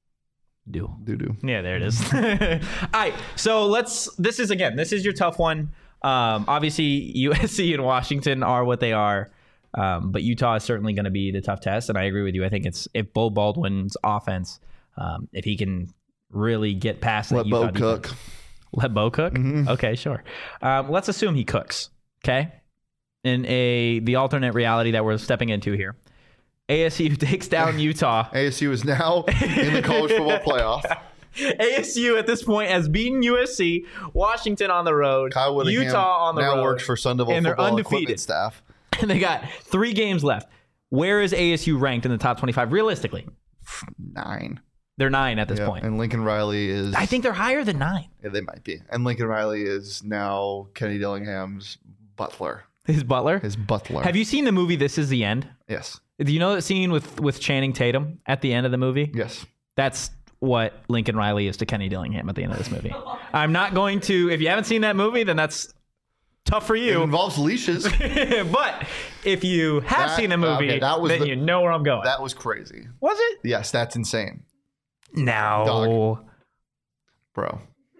Do do do. Yeah, there it is. All right, so let's. This is again. This is your tough one. Um, obviously, U S C and Washington are what they are. Um, but Utah is certainly going to be the tough test, and I agree with you. I think it's if Bo Baldwin's offense, um, if he can really get past let that Utah Bo cook, defense. Let Bo cook. Mm-hmm. Okay, sure. Um, let's assume he cooks. Okay, in a the alternate reality that we're stepping into here, A S U takes down Utah. A S U is now in the college football playoff. A S U at this point has beaten U S C, Washington on the road, Utah on the now road. Now works for Sun Devil and football they're undefeated. Equipment staff. And they got three games left. Where is A S U ranked in the top twenty-five realistically? Nine. They're nine at this yeah, point. And Lincoln Riley is... I think they're higher than nine. Yeah, they might be. And Lincoln Riley is now Kenny Dillingham's butler. His butler? His butler. Have you seen the movie This Is the End? Yes. Do you know that scene with, with Channing Tatum at the end of the movie? Yes. That's what Lincoln Riley is to Kenny Dillingham at the end of this movie. I'm not going to... If you haven't seen that movie, then that's... tough for you. It involves leashes. But if you have that, seen the movie, okay, that was then the, you know where I'm going. That was crazy. Was it? Yes, that's insane. No. Dog. Bro.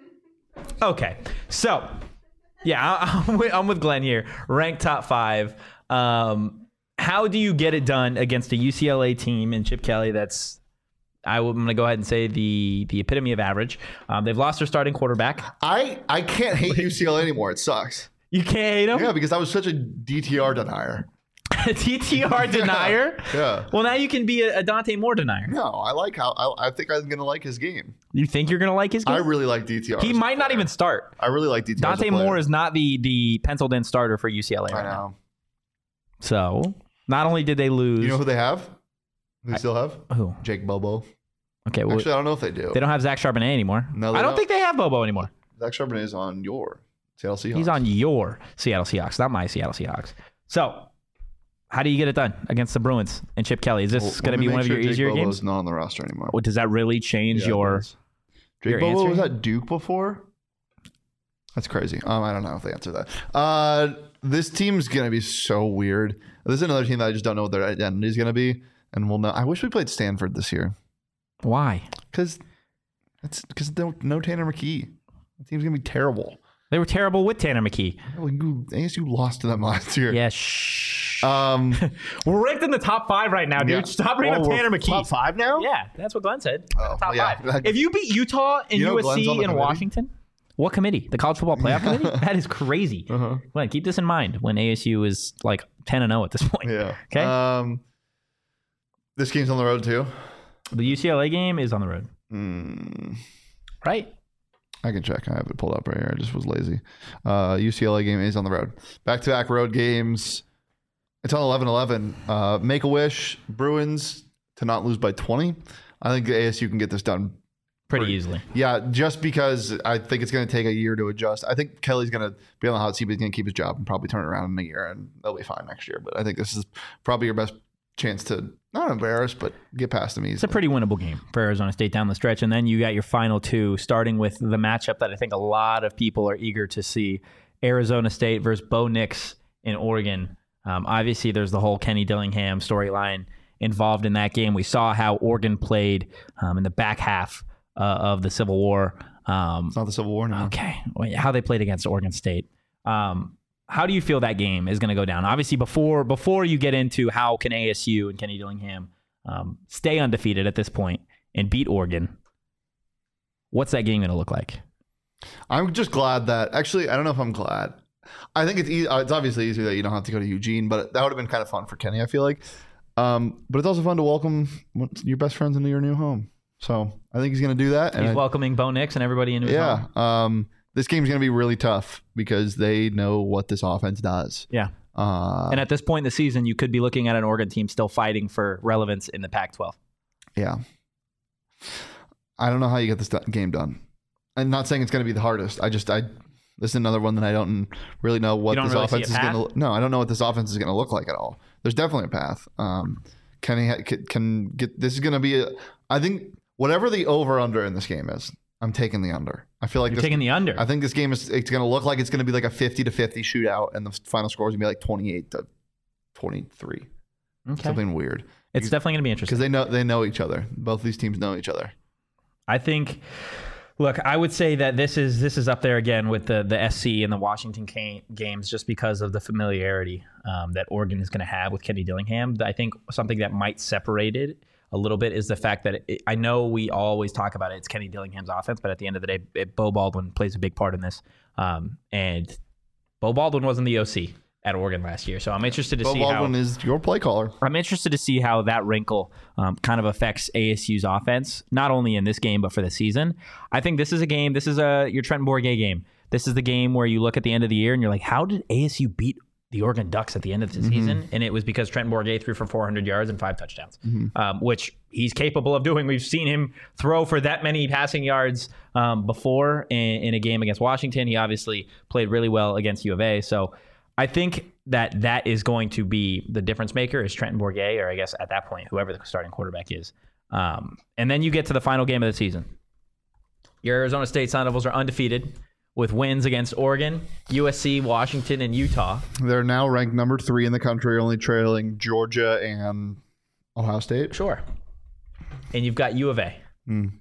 Okay. So, yeah, I, I'm, with, I'm with Glenn here. Ranked top five. Um, how do you get it done against a U C L A team and Chip Kelly that's... I'm going to go ahead and say the the epitome of average. Um, they've lost their starting quarterback. I, I can't hate U C L A anymore. It sucks. You can't hate them? Yeah, because I was such a D T R denier. A D T R denier? Yeah, yeah. Well, now you can be a, a Dante Moore denier. No, I like how I, I think I'm going to like his game. You think you're going to like his game? I really like D T R. He might not even start. I really like D T R. Dante Moore is not the the penciled in starter for U C L A right I know. now. So, not only did they lose. You know who they have? Who they I, still have? Who? Jake Bobo. Okay, well, actually, I don't know if they do. They don't have Zach Charbonnet anymore. No, I don't don't. think they have Bobo anymore. Zach Charbonnet is on your Seattle Seahawks. He's on your Seattle Seahawks, not my Seattle Seahawks. So, how do you get it done against the Bruins and Chip Kelly? Is this well, going to be one of sure your Jake easier Bobo's games? Not on the roster anymore. Well, does that really change yeah, your? Jake your Bobo answer? was at Duke before. That's crazy. Um, I don't know if they answer that. Uh, this team's going to be so weird. This is another team that I just don't know what their identity is going to be, and we'll know. I wish we played Stanford this year. Why? Because it's because no, no Tanner McKee. The team's going to be terrible. They were terrible with Tanner McKee. Well, you, A S U lost to them last year. Yeah, shh. Um, we're ranked in the top five right now, dude. Yeah. Stop bringing oh, up Tanner McKee. Top five now? Yeah, that's what Glenn said. Oh, top well, yeah. five. If you beat Utah and You know U S C Glenn's on the and committee? Washington, what committee? The College Football Playoff Committee? That is crazy. Uh-huh. Glenn, keep this in mind when A S U is like ten and oh at this point. Yeah. Okay. Um, this game's on the road too. The U C L A game is on the road. Mm. Right? I can check. I have it pulled up right here. I just was lazy. Uh, U C L A game is on the road. Back-to-back road games. It's on eleven eleven. Uh, Make-A-Wish, Bruins to not lose by twenty. I think A S U can get this done Pretty, pretty easily. Yeah, just because I think it's going to take a year to adjust. I think Kelly's going to be on the hot seat, but he's going to keep his job and probably turn it around in a year, and they'll be fine next year. But I think this is probably your best chance to not embarrass, but get past them easily. It's a pretty winnable game for Arizona State down the stretch. And then you got your final two, starting with the matchup that I think a lot of people are eager to see. Arizona State versus Bo Nix in Oregon. Um, obviously, there's the whole Kenny Dillingham storyline involved in that game. We saw how Oregon played um, in the back half uh, of the Civil War. Um, it's not the Civil War anymore. Okay. How they played against Oregon State. Um, How do you feel that game is going to go down? Obviously, before before you get into how can A S U and Kenny Dillingham um, stay undefeated at this point and beat Oregon, what's that game going to look like? I'm just glad that actually I don't know if I'm glad. I think it's easy, it's obviously easier that you don't have to go to Eugene, but that would have been kind of fun for Kenny. I feel like, um, but it's also fun to welcome your best friends into your new home. So I think he's going to do that. He's and welcoming Bo Nix and everybody into his yeah, home. Yeah. Um, This game's going to be really tough because they know what this offense does. Yeah. Uh, and at this point in the season, you could be looking at an Oregon team still fighting for relevance in the Pac twelve. Yeah. I don't know how you get this do- game done. I'm not saying it's going to be the hardest. I just, I, this is another one that I don't really know what this really offense is going to, no, I don't know what this offense is going to look like at all. There's definitely a path. Um, Kenny ha- can, can get, this is going to be, a, I think whatever the over under in this game is, I'm taking the under. I feel like You're this, taking the under. I think this game is it's going to look like it's going to be like a fifty to fifty shootout, and the final score is going to be like twenty-eight to twenty-three. Okay. Something weird. It's because, definitely going to be interesting because they know they know each other. Both these teams know each other. I think. Look, I would say that this is this is up there again with the the S C and the Washington games, just because of the familiarity um, that Oregon is going to have with Kenny Dillingham. I think something that might separate it a little bit is the fact that it, I know we always talk about it. It's Kenny Dillingham's offense, but at the end of the day, it, Bo Baldwin plays a big part in this. Um, and Bo Baldwin wasn't the O C at Oregon last year, so I'm interested to Bo see Baldwin how. Baldwin is your play caller. I'm interested to see how that wrinkle um, kind of affects A S U's offense, not only in this game but for the season. I think this is a game. This is a your Trenton Bourguet game. This is the game where you look at the end of the year and you're like, how did A S U beat the Oregon Ducks at the end of the mm-hmm. season? And it was because Trenton Bourguet threw for four hundred yards and five touchdowns, mm-hmm. um, which he's capable of doing. We've seen him throw for that many passing yards um, before in, in a game against Washington. He obviously played really well against U of A. So I think that that is going to be the difference maker is Trenton Bourguet, or I guess at that point, whoever the starting quarterback is. Um, and then you get to the final game of the season. Your Arizona State Sun Devils are undefeated with wins against Oregon, U S C, Washington, and Utah. They're now ranked number three in the country, only trailing Georgia and Ohio State. Sure. And you've got U of A. Mm.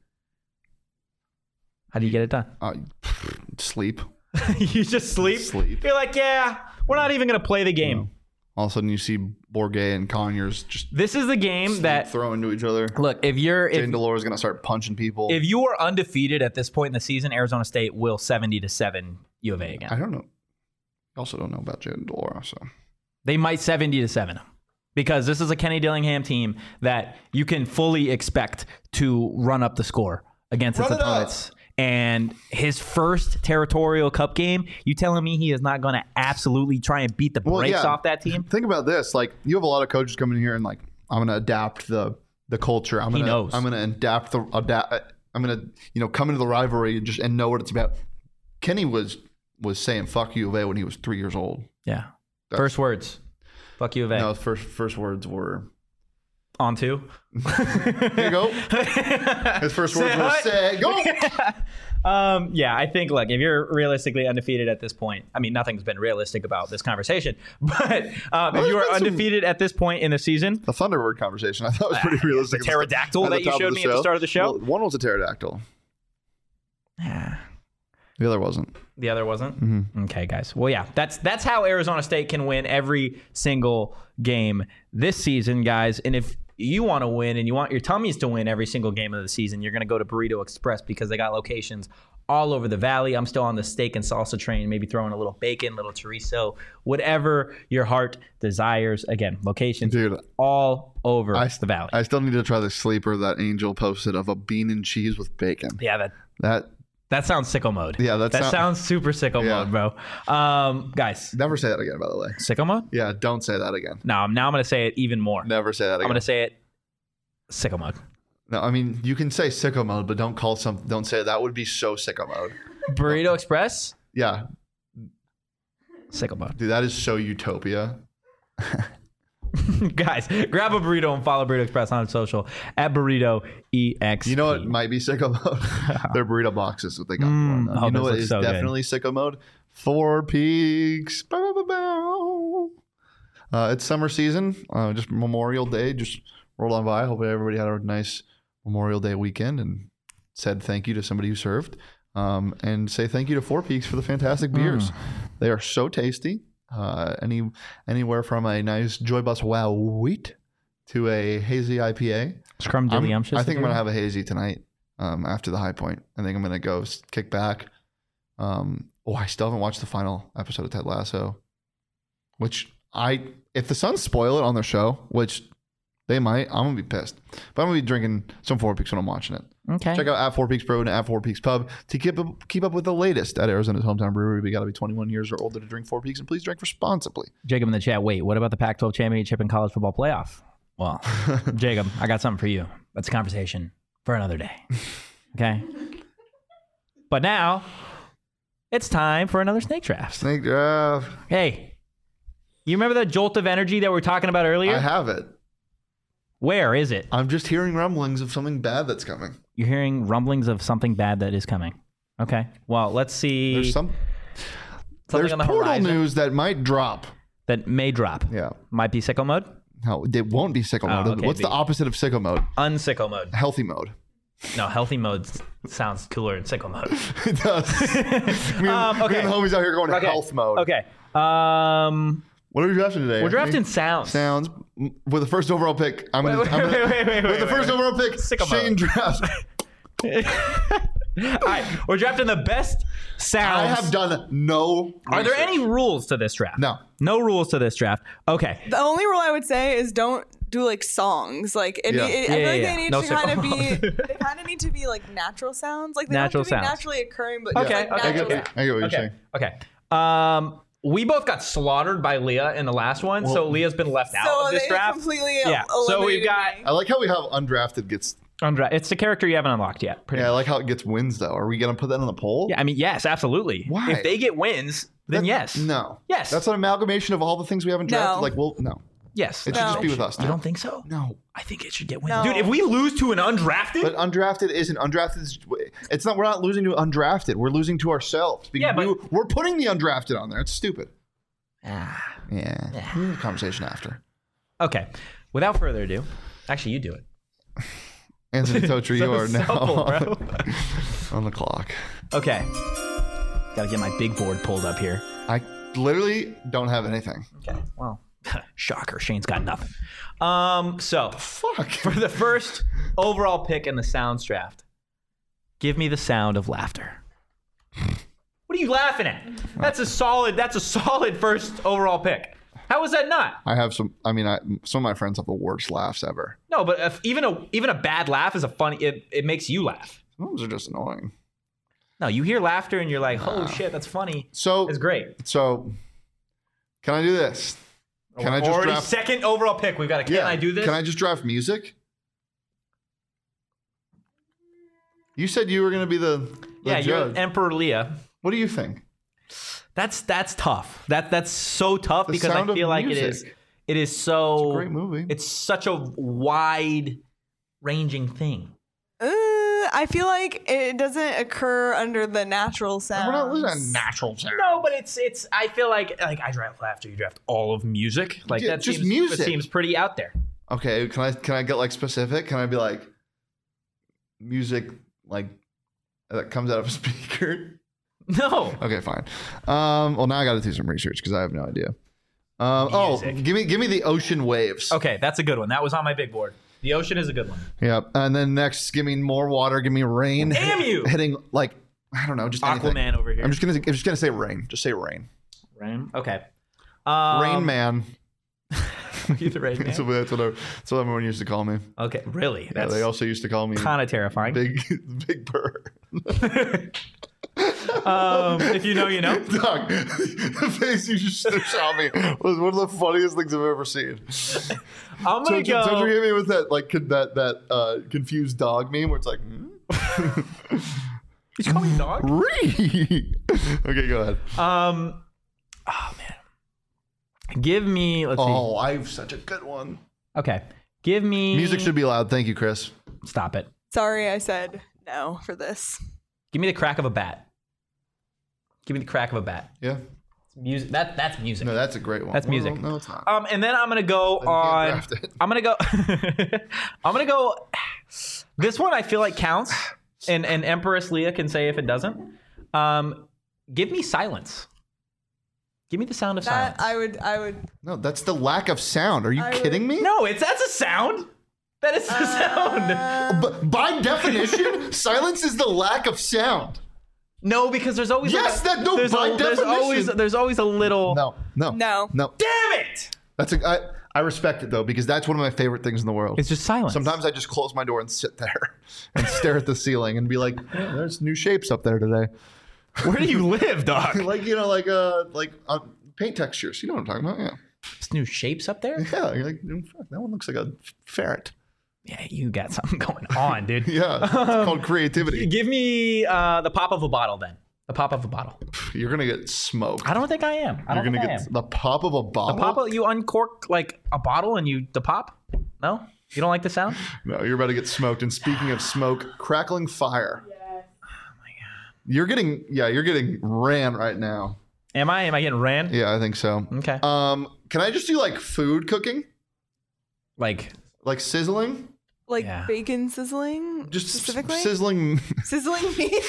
How do you get it done? Uh, sleep. You just sleep? Sleep. You're like, yeah, we're not even going to play the game. No. All of a sudden, you see Bourguet and Conyers just. This is the game that throw into each other. Look, if you're, Jane Delore is going to start punching people. If you are undefeated at this point in the season, Arizona State will seventy to seven U of A again. I don't know. I also don't know about Jane Delore, so they might seventy to seven them because this is a Kenny Dillingham team that you can fully expect to run up the score against its opponents. And his first territorial cup game, you telling me he is not going to absolutely try and beat the brakes well, yeah. off that team? Think about this. Like, you have a lot of coaches coming in here and like, I'm going to adapt the the culture. I'm he gonna, knows. I'm going to adapt the adapt. I'm going to, you know, come into the rivalry and just and know what it's about. Kenny was was saying "fuck U of A" when he was three years old. Yeah. That's, first words. Fuck U of A. No, first first words were on to. Here you go. His first words were say go. Um, yeah, I think, look, if you're realistically undefeated at this point, I mean, nothing's been realistic about this conversation, but um, if you are undefeated some, at this point in the season. The Thunderbird conversation, I thought was pretty uh, realistic. The pterodactyl that you showed me show. at the start of the show? Well, one was a pterodactyl. Yeah. The other wasn't. The other wasn't? Mm-hmm. Okay, guys. Well, yeah, that's that's how Arizona State can win every single game this season, guys. And if you want to win and you want your tummies to win every single game of the season, you're going to go to Burrito Express because they got locations all over the valley. I'm still on the steak and salsa train, maybe throwing a little bacon, little chorizo, whatever your heart desires. Again, locations Dude, all over I, the valley. I still need to try the sleeper that Angel posted of a bean and cheese with bacon. Yeah, that that that sounds sicko mode. Yeah, that sound, sounds super sicko yeah. mode, bro. Um, guys, never say that again. By the way, sicko mode. Yeah, don't say that again. No, now I'm going to say it even more. Never say that again. I'm going to say it. Sicko mode. No, I mean you can say sicko mode, but don't call some. Don't say it. That would be so sicko mode. Burrito Express. Yeah. Sicko mode. Dude, that is so utopia. Guys, grab a burrito and follow Burrito Express on social at burrito ex. You know what might be sicko mode? Their burrito boxes. What they got. Mm, for them. oh, you know what is so definitely good. sicko mode? Four Peaks. Bow, bow, bow. Uh, it's summer season. Uh, just Memorial Day. Just. Rolled on by. Hopefully everybody had a nice Memorial Day weekend and said thank you to somebody who served. Um, and say thank you to Four Peaks for the fantastic beers. Mm. They are so tasty. Uh, any anywhere from a nice Joy Bus Wow Wheat to a hazy I P A. Scrum I think I'm going to have a hazy tonight um, after the high point. I think I'm going to go kick back. Um, oh, I still haven't watched the final episode of Ted Lasso, which I, if the Suns spoil it on their show, which they might. I'm going to be pissed. But I'm going to be drinking some Four Peaks when I'm watching it. Okay. Check out at Four Peaks Brew and at Four Peaks Pub to keep up, keep up with the latest at Arizona's hometown brewery. We got to be twenty-one years or older to drink Four Peaks, and please drink responsibly. Jacob in the chat, wait, what about the Pac twelve championship and college football playoff? Well, Jacob, I got something for you. That's a conversation for another day. Okay? But now, it's time for another snake draft. Snake draft. Hey, you remember that jolt of energy that we were talking about earlier? I have it. Where is it? I'm just hearing rumblings of something bad that's coming. You're hearing rumblings of something bad that is coming. Okay. Well, let's see. There's some. Something There's on the portal horizon news that might drop. That may drop. Yeah. Might be sicko mode? No, it won't be sicko mode. Oh, okay, What's be the opposite of sicko mode? Unsicko mode. Healthy mode. No, healthy mode sounds cooler than sicko mode. It does. me, and, um, okay. me and the homies out here going okay. health mode. Okay. Um... What are we drafting today? We're drafting sounds. Sounds. With the first overall pick. I'm wait, gonna, wait, I'm gonna, wait, wait, wait, with wait, the first wait, overall pick, Sicko Shane drafts. All right, we're drafting the best sounds. I have done no Are research. there any rules to this draft? No. No rules to this draft. Okay. The only rule I would say is don't do like songs. Like it, Yeah. it, Yeah, I feel yeah, like yeah. they need No to kind of be. sicko They kind of need to be like natural sounds. Like they Natural don't have to be sounds. naturally occurring, but Okay, just like okay, I get, natural. okay. I get what you're Okay. saying. Okay. Um, we both got slaughtered by Leah in the last one, so Leah's been left out So of this they draft. completely Yeah. So we've eliminated got me. I like how we have undrafted gets. Undra- It's the character you haven't unlocked yet. Pretty Yeah, I much. like how it gets wins though. Are we gonna put that on the poll? Yeah, I mean, yes, absolutely. Why? If they get wins, then That- yes. No. Yes. That's an amalgamation of all the things we haven't drafted. No. Like, well, no. Yes. It should just No. be with us You now. don't think so? No. I think it should get wins. No. Dude, if we lose to an undrafted, But undrafted isn't undrafted. Is, it's not. We're not losing to undrafted. We're losing to ourselves because Yeah, but- we, we're putting the undrafted on there. It's stupid. ah. Yeah. Yeah. We'll have a conversation after. Okay. Without further ado, actually, you do it. Anthony Totri, you So are now simple, on, bro. on the clock. Okay. Got to get my big board pulled up here. I literally don't have anything. Okay. Well, shocker. Shane's got nothing. Um. So Fuck. for the first overall pick in the sounds draft, give me the sound of laughter. What are you laughing at? That's a solid. That's a solid first overall pick. How is that not? I have some. I mean, I, some of my friends have the worst laughs ever. No, but if even a even a bad laugh is a funny. It it makes you laugh. Those are just annoying. No, you hear laughter and you're like, "Oh shit, that's funny." So It's great. So, can I do this? Can I just Already draft? second overall pick. We've got a. Can yeah. I do this? Can I just draft music? You said you were going to be the, the yeah, you're judge. Emperor Leah. What do you think? That's that's tough. That that's so tough The because I Sound of feel like it is Music. it is so It's a great movie. It's such a wide ranging thing. Uh, I feel like it doesn't occur under the natural sounds. We're not listening to natural sound. No, but it's it's. I feel like like I draft after you draft all of music. Like Yeah, that just seems, music. That seems pretty out there. Okay, can I can I get like specific? Can I be like music like that comes out of a speaker? No. Okay, fine. Um, well, now I got to do some research because I have no idea. Um, oh, Music. give me give me the ocean waves. Okay, that's a good one. That was on my big board. The ocean is a good one. Yep. And then next, give me more water. Give me rain. Damn you! Hitting like I don't know, just anything. Aquaman over here. I'm just gonna I'm just gonna say rain. Just say rain. Rain. Okay. Um, Rain Man. You the Rain Man. That's what, that's what I, that's what everyone used to call me. Okay, really? Yeah, That's they also used to call me kind of terrifying. Big Big Bird. um, if you know, you know. Doug, the face you just shot me was one of the funniest things I've ever seen. I'm gonna Don't you, go. don't you hit me with that like con- that that uh, confused dog meme where it's like, hmm? Did you call me dog? Ree. Okay, go ahead. Um. Oh man. Give me. Let's Oh, I have such a good one. see. Okay. Give me. Music should be loud. Thank you, Chris. Stop it. Sorry, I said no for this. Give me the crack of a bat. Give me the crack of a bat. Yeah. Music. That that's music. No, that's a great one. That's Well, music. No, it's not. Um, and then I'm gonna go Then you can't on. draft it. I'm gonna go. I'm gonna go. This one I feel like counts, and and Empress Leah can say if it doesn't. Um, give me silence. Give me the sound of That silence. I would, I would. No, that's the lack of sound. Are you I would- kidding me? No, it's that's a sound. That is the sound. Uh, But by definition, silence is the lack of sound. No, because there's always Yes, a, that- no, there's, by a, there's definition. always there's always a little. No, no, No. no. Damn it! That's a. I, I respect it though because that's one of my favorite things in the world. It's just silence. Sometimes I just close my door and sit there and stare at the ceiling and be like, "Yeah, there's new shapes up there today." Where do you live, dog? Like you know, like uh, like uh, paint textures. You know what I'm talking about? Yeah, There's new shapes up there. yeah. You're like, "Mm, fuck, that one looks like a ferret. Yeah, you got something going on, dude. Yeah, it's called creativity. Give me uh, the pop of a bottle, then. The pop of a bottle. You're gonna get smoked. I don't think I am. I You're don't gonna think I get am. the pop of a bottle. The pop of, you uncork like a bottle and you the pop? No? You don't like the sound? No, you're about to get smoked. And speaking of smoke, crackling fire. Yes. You're getting, yeah, you're getting ran right now. Am I? Am I getting ran? Yeah, I think so. Okay. Um, can I just do like food cooking, Like like sizzling, Like Yeah. bacon sizzling, just specifically. sizzling? Sizzling meat.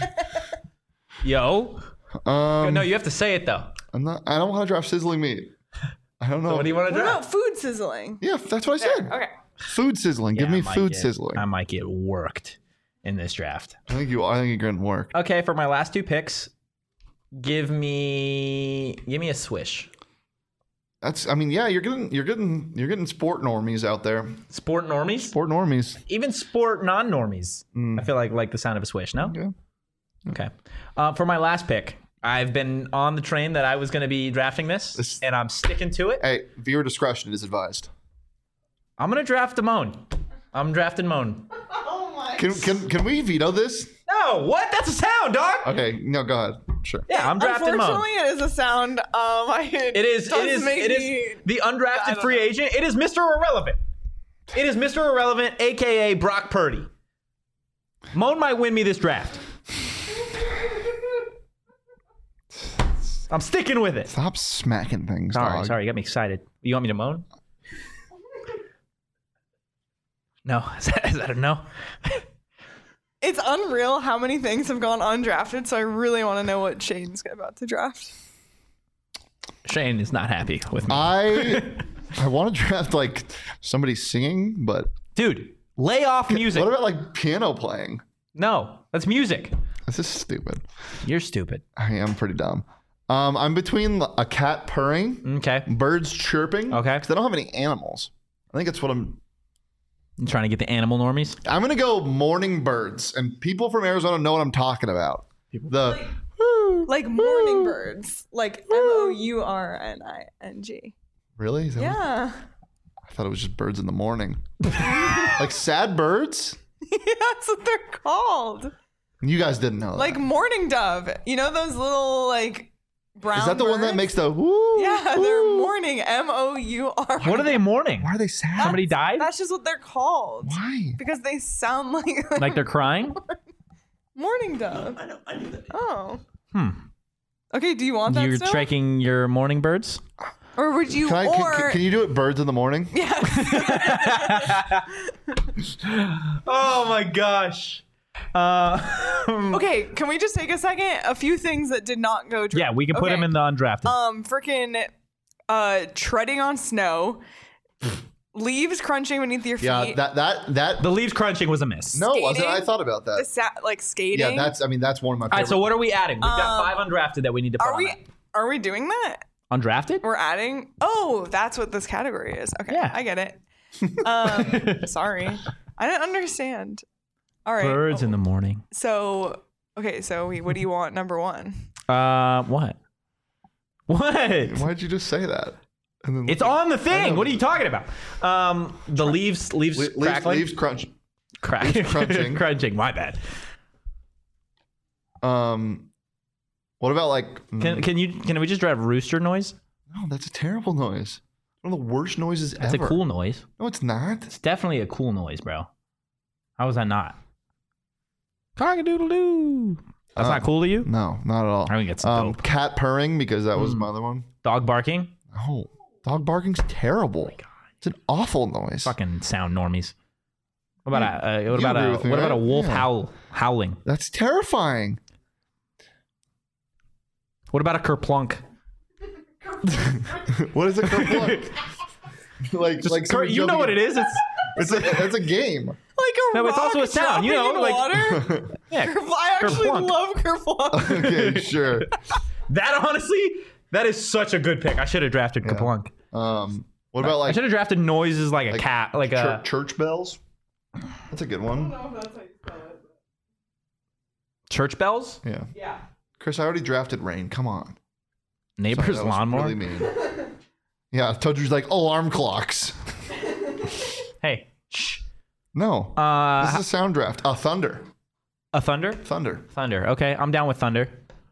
yo. Um, No, you have to say it though. I'm not. I don't want to draft sizzling meat. I don't know. What do you want to What draft? about food sizzling? Yeah, that's what I said. Okay. Food sizzling. Give Yeah, me I might food get- sizzling. I might get worked in this draft. I think you. I think you're gonna work. Okay, for my last two picks, give me give me a swish. That's. I mean, yeah, you're getting. You're getting. You're getting sport normies out there. Sport normies? Sport normies. Even sport non-normies. Mm. I feel like like the sound of a swish, no? Yeah. Okay. Uh, for my last pick, I've been on the train that I was going to be drafting this, This- and I'm sticking to it. Hey, viewer discretion is advised. I'm going to draft a Moan. I'm drafting Moan. Oh my. Can can can we veto this? No, what? That's a sound, dog. Okay. No. Go ahead. Sure. Yeah, I'm drafting Moan. Unfortunately, it is a sound. Um, I, It is. It does is. make It is me- the I undrafted don't free know. agent. It is Mister Irrelevant. It is Mister Irrelevant, aka Brock Purdy. Moan might win me this draft. I'm sticking with it. Stop smacking things. Sorry, dog. sorry, you got me excited. You want me to moan? No, is that, is that a no? It's unreal how many things have gone undrafted. So I really want to know what Shane's about to draft. Shane is not happy with me. I I want to draft like somebody singing, but Dude, lay off music. what about like piano playing? No, that's music. This is stupid. You're stupid. I am pretty dumb. Um, I'm between a cat purring, Okay. birds chirping. Okay. Because I don't have any animals. I think that's what I'm. I'm trying to get the animal normies. I'm gonna go morning birds, and people from Arizona know what I'm talking about. The Like morning birds. Like M O U R N I N G. really? Is that what- Yeah. I thought it was just birds in the morning. Like sad birds. Yeah, that's what they're called. You guys didn't know that. Like mourning dove. You know those little like brown Is that the birds? one that makes the woo? Yeah, they're mourning. M O U R. What are they mourning? Why are they sad? Somebody died? That's just what they're called. Why? Because they sound like Like they're crying? mourning dove. I know. I knew that. Oh. Hmm. Okay, do you want that You're still? tracking your morning birds? Or would you Can, I, or can, can you do it birds in the morning? Yes. Oh my gosh. Uh, Okay, can we just take a second? A few things that did not go dr- yeah, we can put okay. them in the undrafted. Um freaking uh treading on snow. Leaves crunching beneath your feet. Yeah, that that that. the leaves crunching was a miss. no, wasn't. skating? I thought about the that. sa- like skating. Yeah, that's. I mean, that's one of my. All Favorite. right, so what are we adding? We've got Um, five undrafted that we need to put Are on we that. are we doing that? Undrafted? We're adding. Oh, that's what this category is. Okay, Yeah. I get it. Um, sorry, I didn't understand. All right. Birds in the morning. So okay, so we, what do you want? Number one. Uh, what? What? Why'd you just say that? And then It's on the I thing. know. What are you talking about? Um, the leaves, leaves, Le- leaves, crackling, leaves crunch. Crack- leaves crunching. crunching. My bad. Um, what about like? Can can you can we just drive rooster noise? No, that's a terrible noise. One of the worst noises That's ever. a cool noise. No, it's not. It's definitely a cool noise, bro. How is that not? Cock-a-doodle-doo. That's Uh, not cool to you? No, not at all. I think it's um, dope. cat purring because that was Mm. my other one. Dog barking? Oh, dog barking's terrible. It's an awful noise. Fucking sound normies. What about a, uh, what You about agree a with me, what about a right? wolf Yeah. howl howling? That's terrifying. What about a kerplunk? What is a kerplunk? like, Just like Kurt, somebody you know jumping what in- it is? It's It's a, it's a game. Like a No, rock it's also a sound, you know, dropping in like- water. yeah. I actually Kerplunk. love kerplunk. Okay, sure. That honestly, that is such a good pick. I should have drafted Yeah. kerplunk. Um, what about I like should have drafted noises like a like cat, like chur- a church bells? That's a good one. church bells, Yeah. Yeah. Chris, I already drafted rain. Come on. Sorry, neighbor's that was lawnmower. Really mean. Yeah, Toadrew's like alarm clocks. Hey, shh. No. Uh, this is a sound draft. Uh, thunder. a thunder, Thunder. thunder. Okay, I'm down with thunder.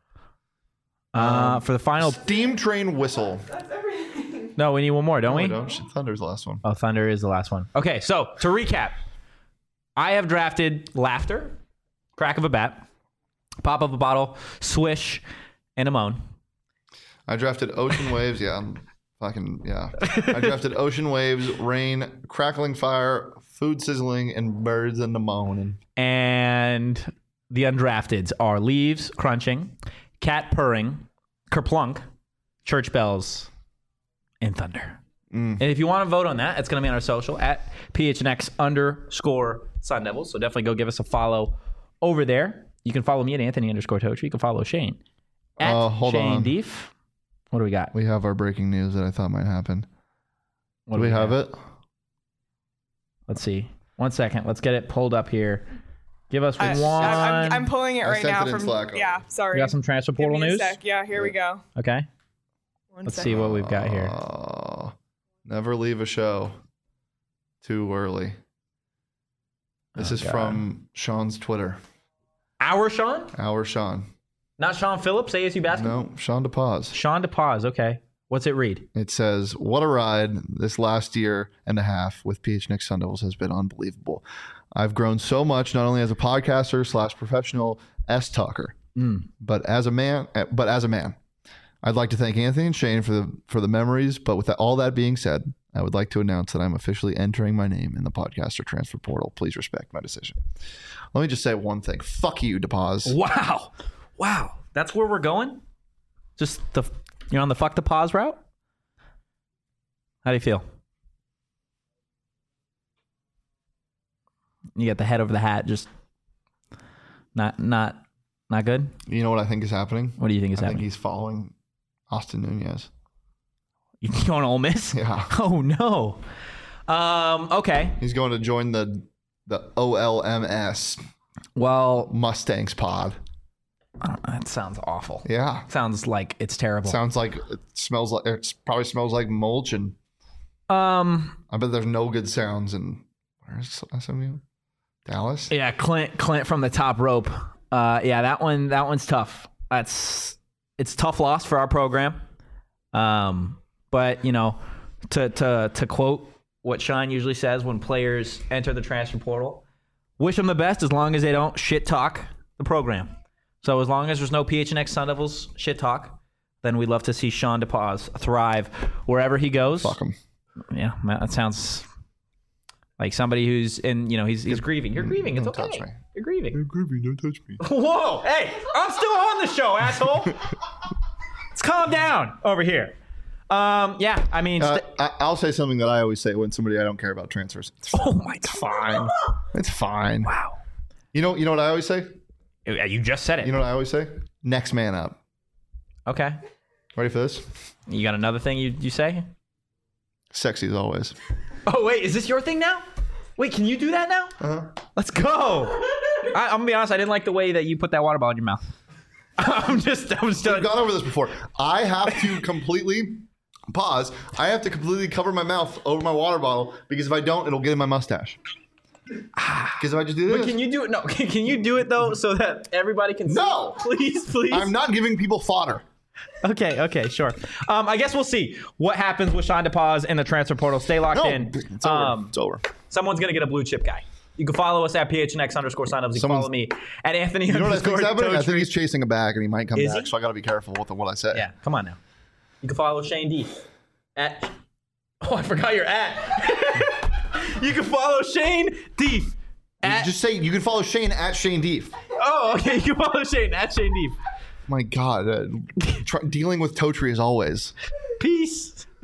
Uh, Um, for the final, Steam train whistle. no, we need one more, don't No, we? I don't. Shit, Thunder's the last one. Oh, thunder is the last one. Okay, so to recap, I have drafted laughter, crack of a bat, pop of a bottle, swish, and a moan. I drafted ocean waves. Yeah, I'm fucking yeah. I drafted ocean waves, rain, crackling fire, food sizzling, and birds in the moaning. And the undrafteds are leaves crunching, cat purring, kerplunk, church bells, and thunder. Mm. And if you want to vote on that, it's going to be on our social at P H N X underscore Sun Devils. So definitely go give us a follow over there. You can follow me at Anthony underscore Totri. You can follow Shane at Uh, hold Shane on. Deef. What do we got? We have our breaking news that I thought might happen. What Do we have it? Let's see. One second. Let's get it pulled up here. Give us I, one. I, I'm, I'm pulling it I right sent now it in from Slack. yeah. Sorry. We got some transfer Give portal me a news. sec. Yeah, here we go. Okay. One Let's sec. see what we've got here. Uh, never leave a show too early. This Oh, is God. from Sean's Twitter. Our Sean? Our Sean. Not Sean Phillips, A S U basketball? No, Sean DePaz. Sean DePaz. Okay. What's it read? It says, "What a ride this last year and a half with P H N X Sun Devils has been unbelievable. I've grown so much, not only as a podcaster slash professional S talker, Mm. but as a man. uh, But as a man, I'd like to thank Anthony and Shane for the for the memories. But with that, all that being said, I would like to announce that I'm officially entering my name in the podcaster transfer portal. Please respect my decision." Let me just say one thing. Fuck you, DePaz. Wow. Wow. That's where we're going? Just the you're on the fuck the pause route? How do you feel? You got the head over the hat, just not not not good? You know what I think is happening? What do you think is I think happening? he's following Austin Nunez. You going to Ole Miss? Yeah. Oh no. Um, okay. He's going to join the the O L M S Well, Mustangs pod. uh, that sounds awful. Yeah. Sounds like it's terrible. Sounds like it smells like it probably smells like mulch, and um I bet there's no good sounds in where's S M U? Dallas? yeah, Clint Clint from the top rope. Uh, yeah, that one. That one's tough. That's it's a tough loss for our program. Um, but you know, to to to quote what Sean usually says when players enter the transfer portal, wish them the best as long as they don't shit talk the program. So as long as there's no P H N X Sun Devils shit talk, then we'd love to see Sean DePaz thrive wherever he goes. Fuck him. Yeah, that sounds like somebody who's in, you know, he's he's grieving. You're grieving. It's Don't okay. touch me. You're grieving. You're grieving. Don't touch me. Whoa! Hey, I'm still on the show, asshole. Let's calm down over here. Um, yeah, I mean, Uh, st- I, I'll say something that I always say when somebody I don't care about transfers. It's oh my god, fine. It's fine. wow. You know, you know what I always say? You just said it. You know what I always say? Next man up. Okay. Ready for this? You got another thing you you say? Sexy as always. Oh wait, is this your thing now? Wait, can you do that now? Uh-huh. Let's go. I, I'm gonna be honest. I didn't like the way that you put that water bottle in your mouth. I'm just, I'm just. We've gone over this before. I have to completely pause. I have to completely cover my mouth over my water bottle because if I don't, it'll get in my mustache. Because if I just do this, But can you do it? No, can, can you do it though so that everybody can see? No! Please, please. I'm not giving people fodder. Okay, okay, sure. Um, I guess we'll see what happens with Sean DePaz in the transfer portal. Stay locked No, in. it's over. Um, it's over. someone's gonna get a blue chip guy. You can follow us at P H N X underscore signups. You can Someone's- follow me at Anthony You know what I underscore think's happening? I think Totri. he's chasing a bag and he might come Is back, he? so I got to be careful with what I say. Yeah, come on now. You can follow Shane D at. Oh, I forgot your at. You can follow Shane D. At, Just say you can follow Shane at Shane Deef. oh, okay. You can follow Shane at Shane D. My God, uh, try, dealing with Totri as always. Peace.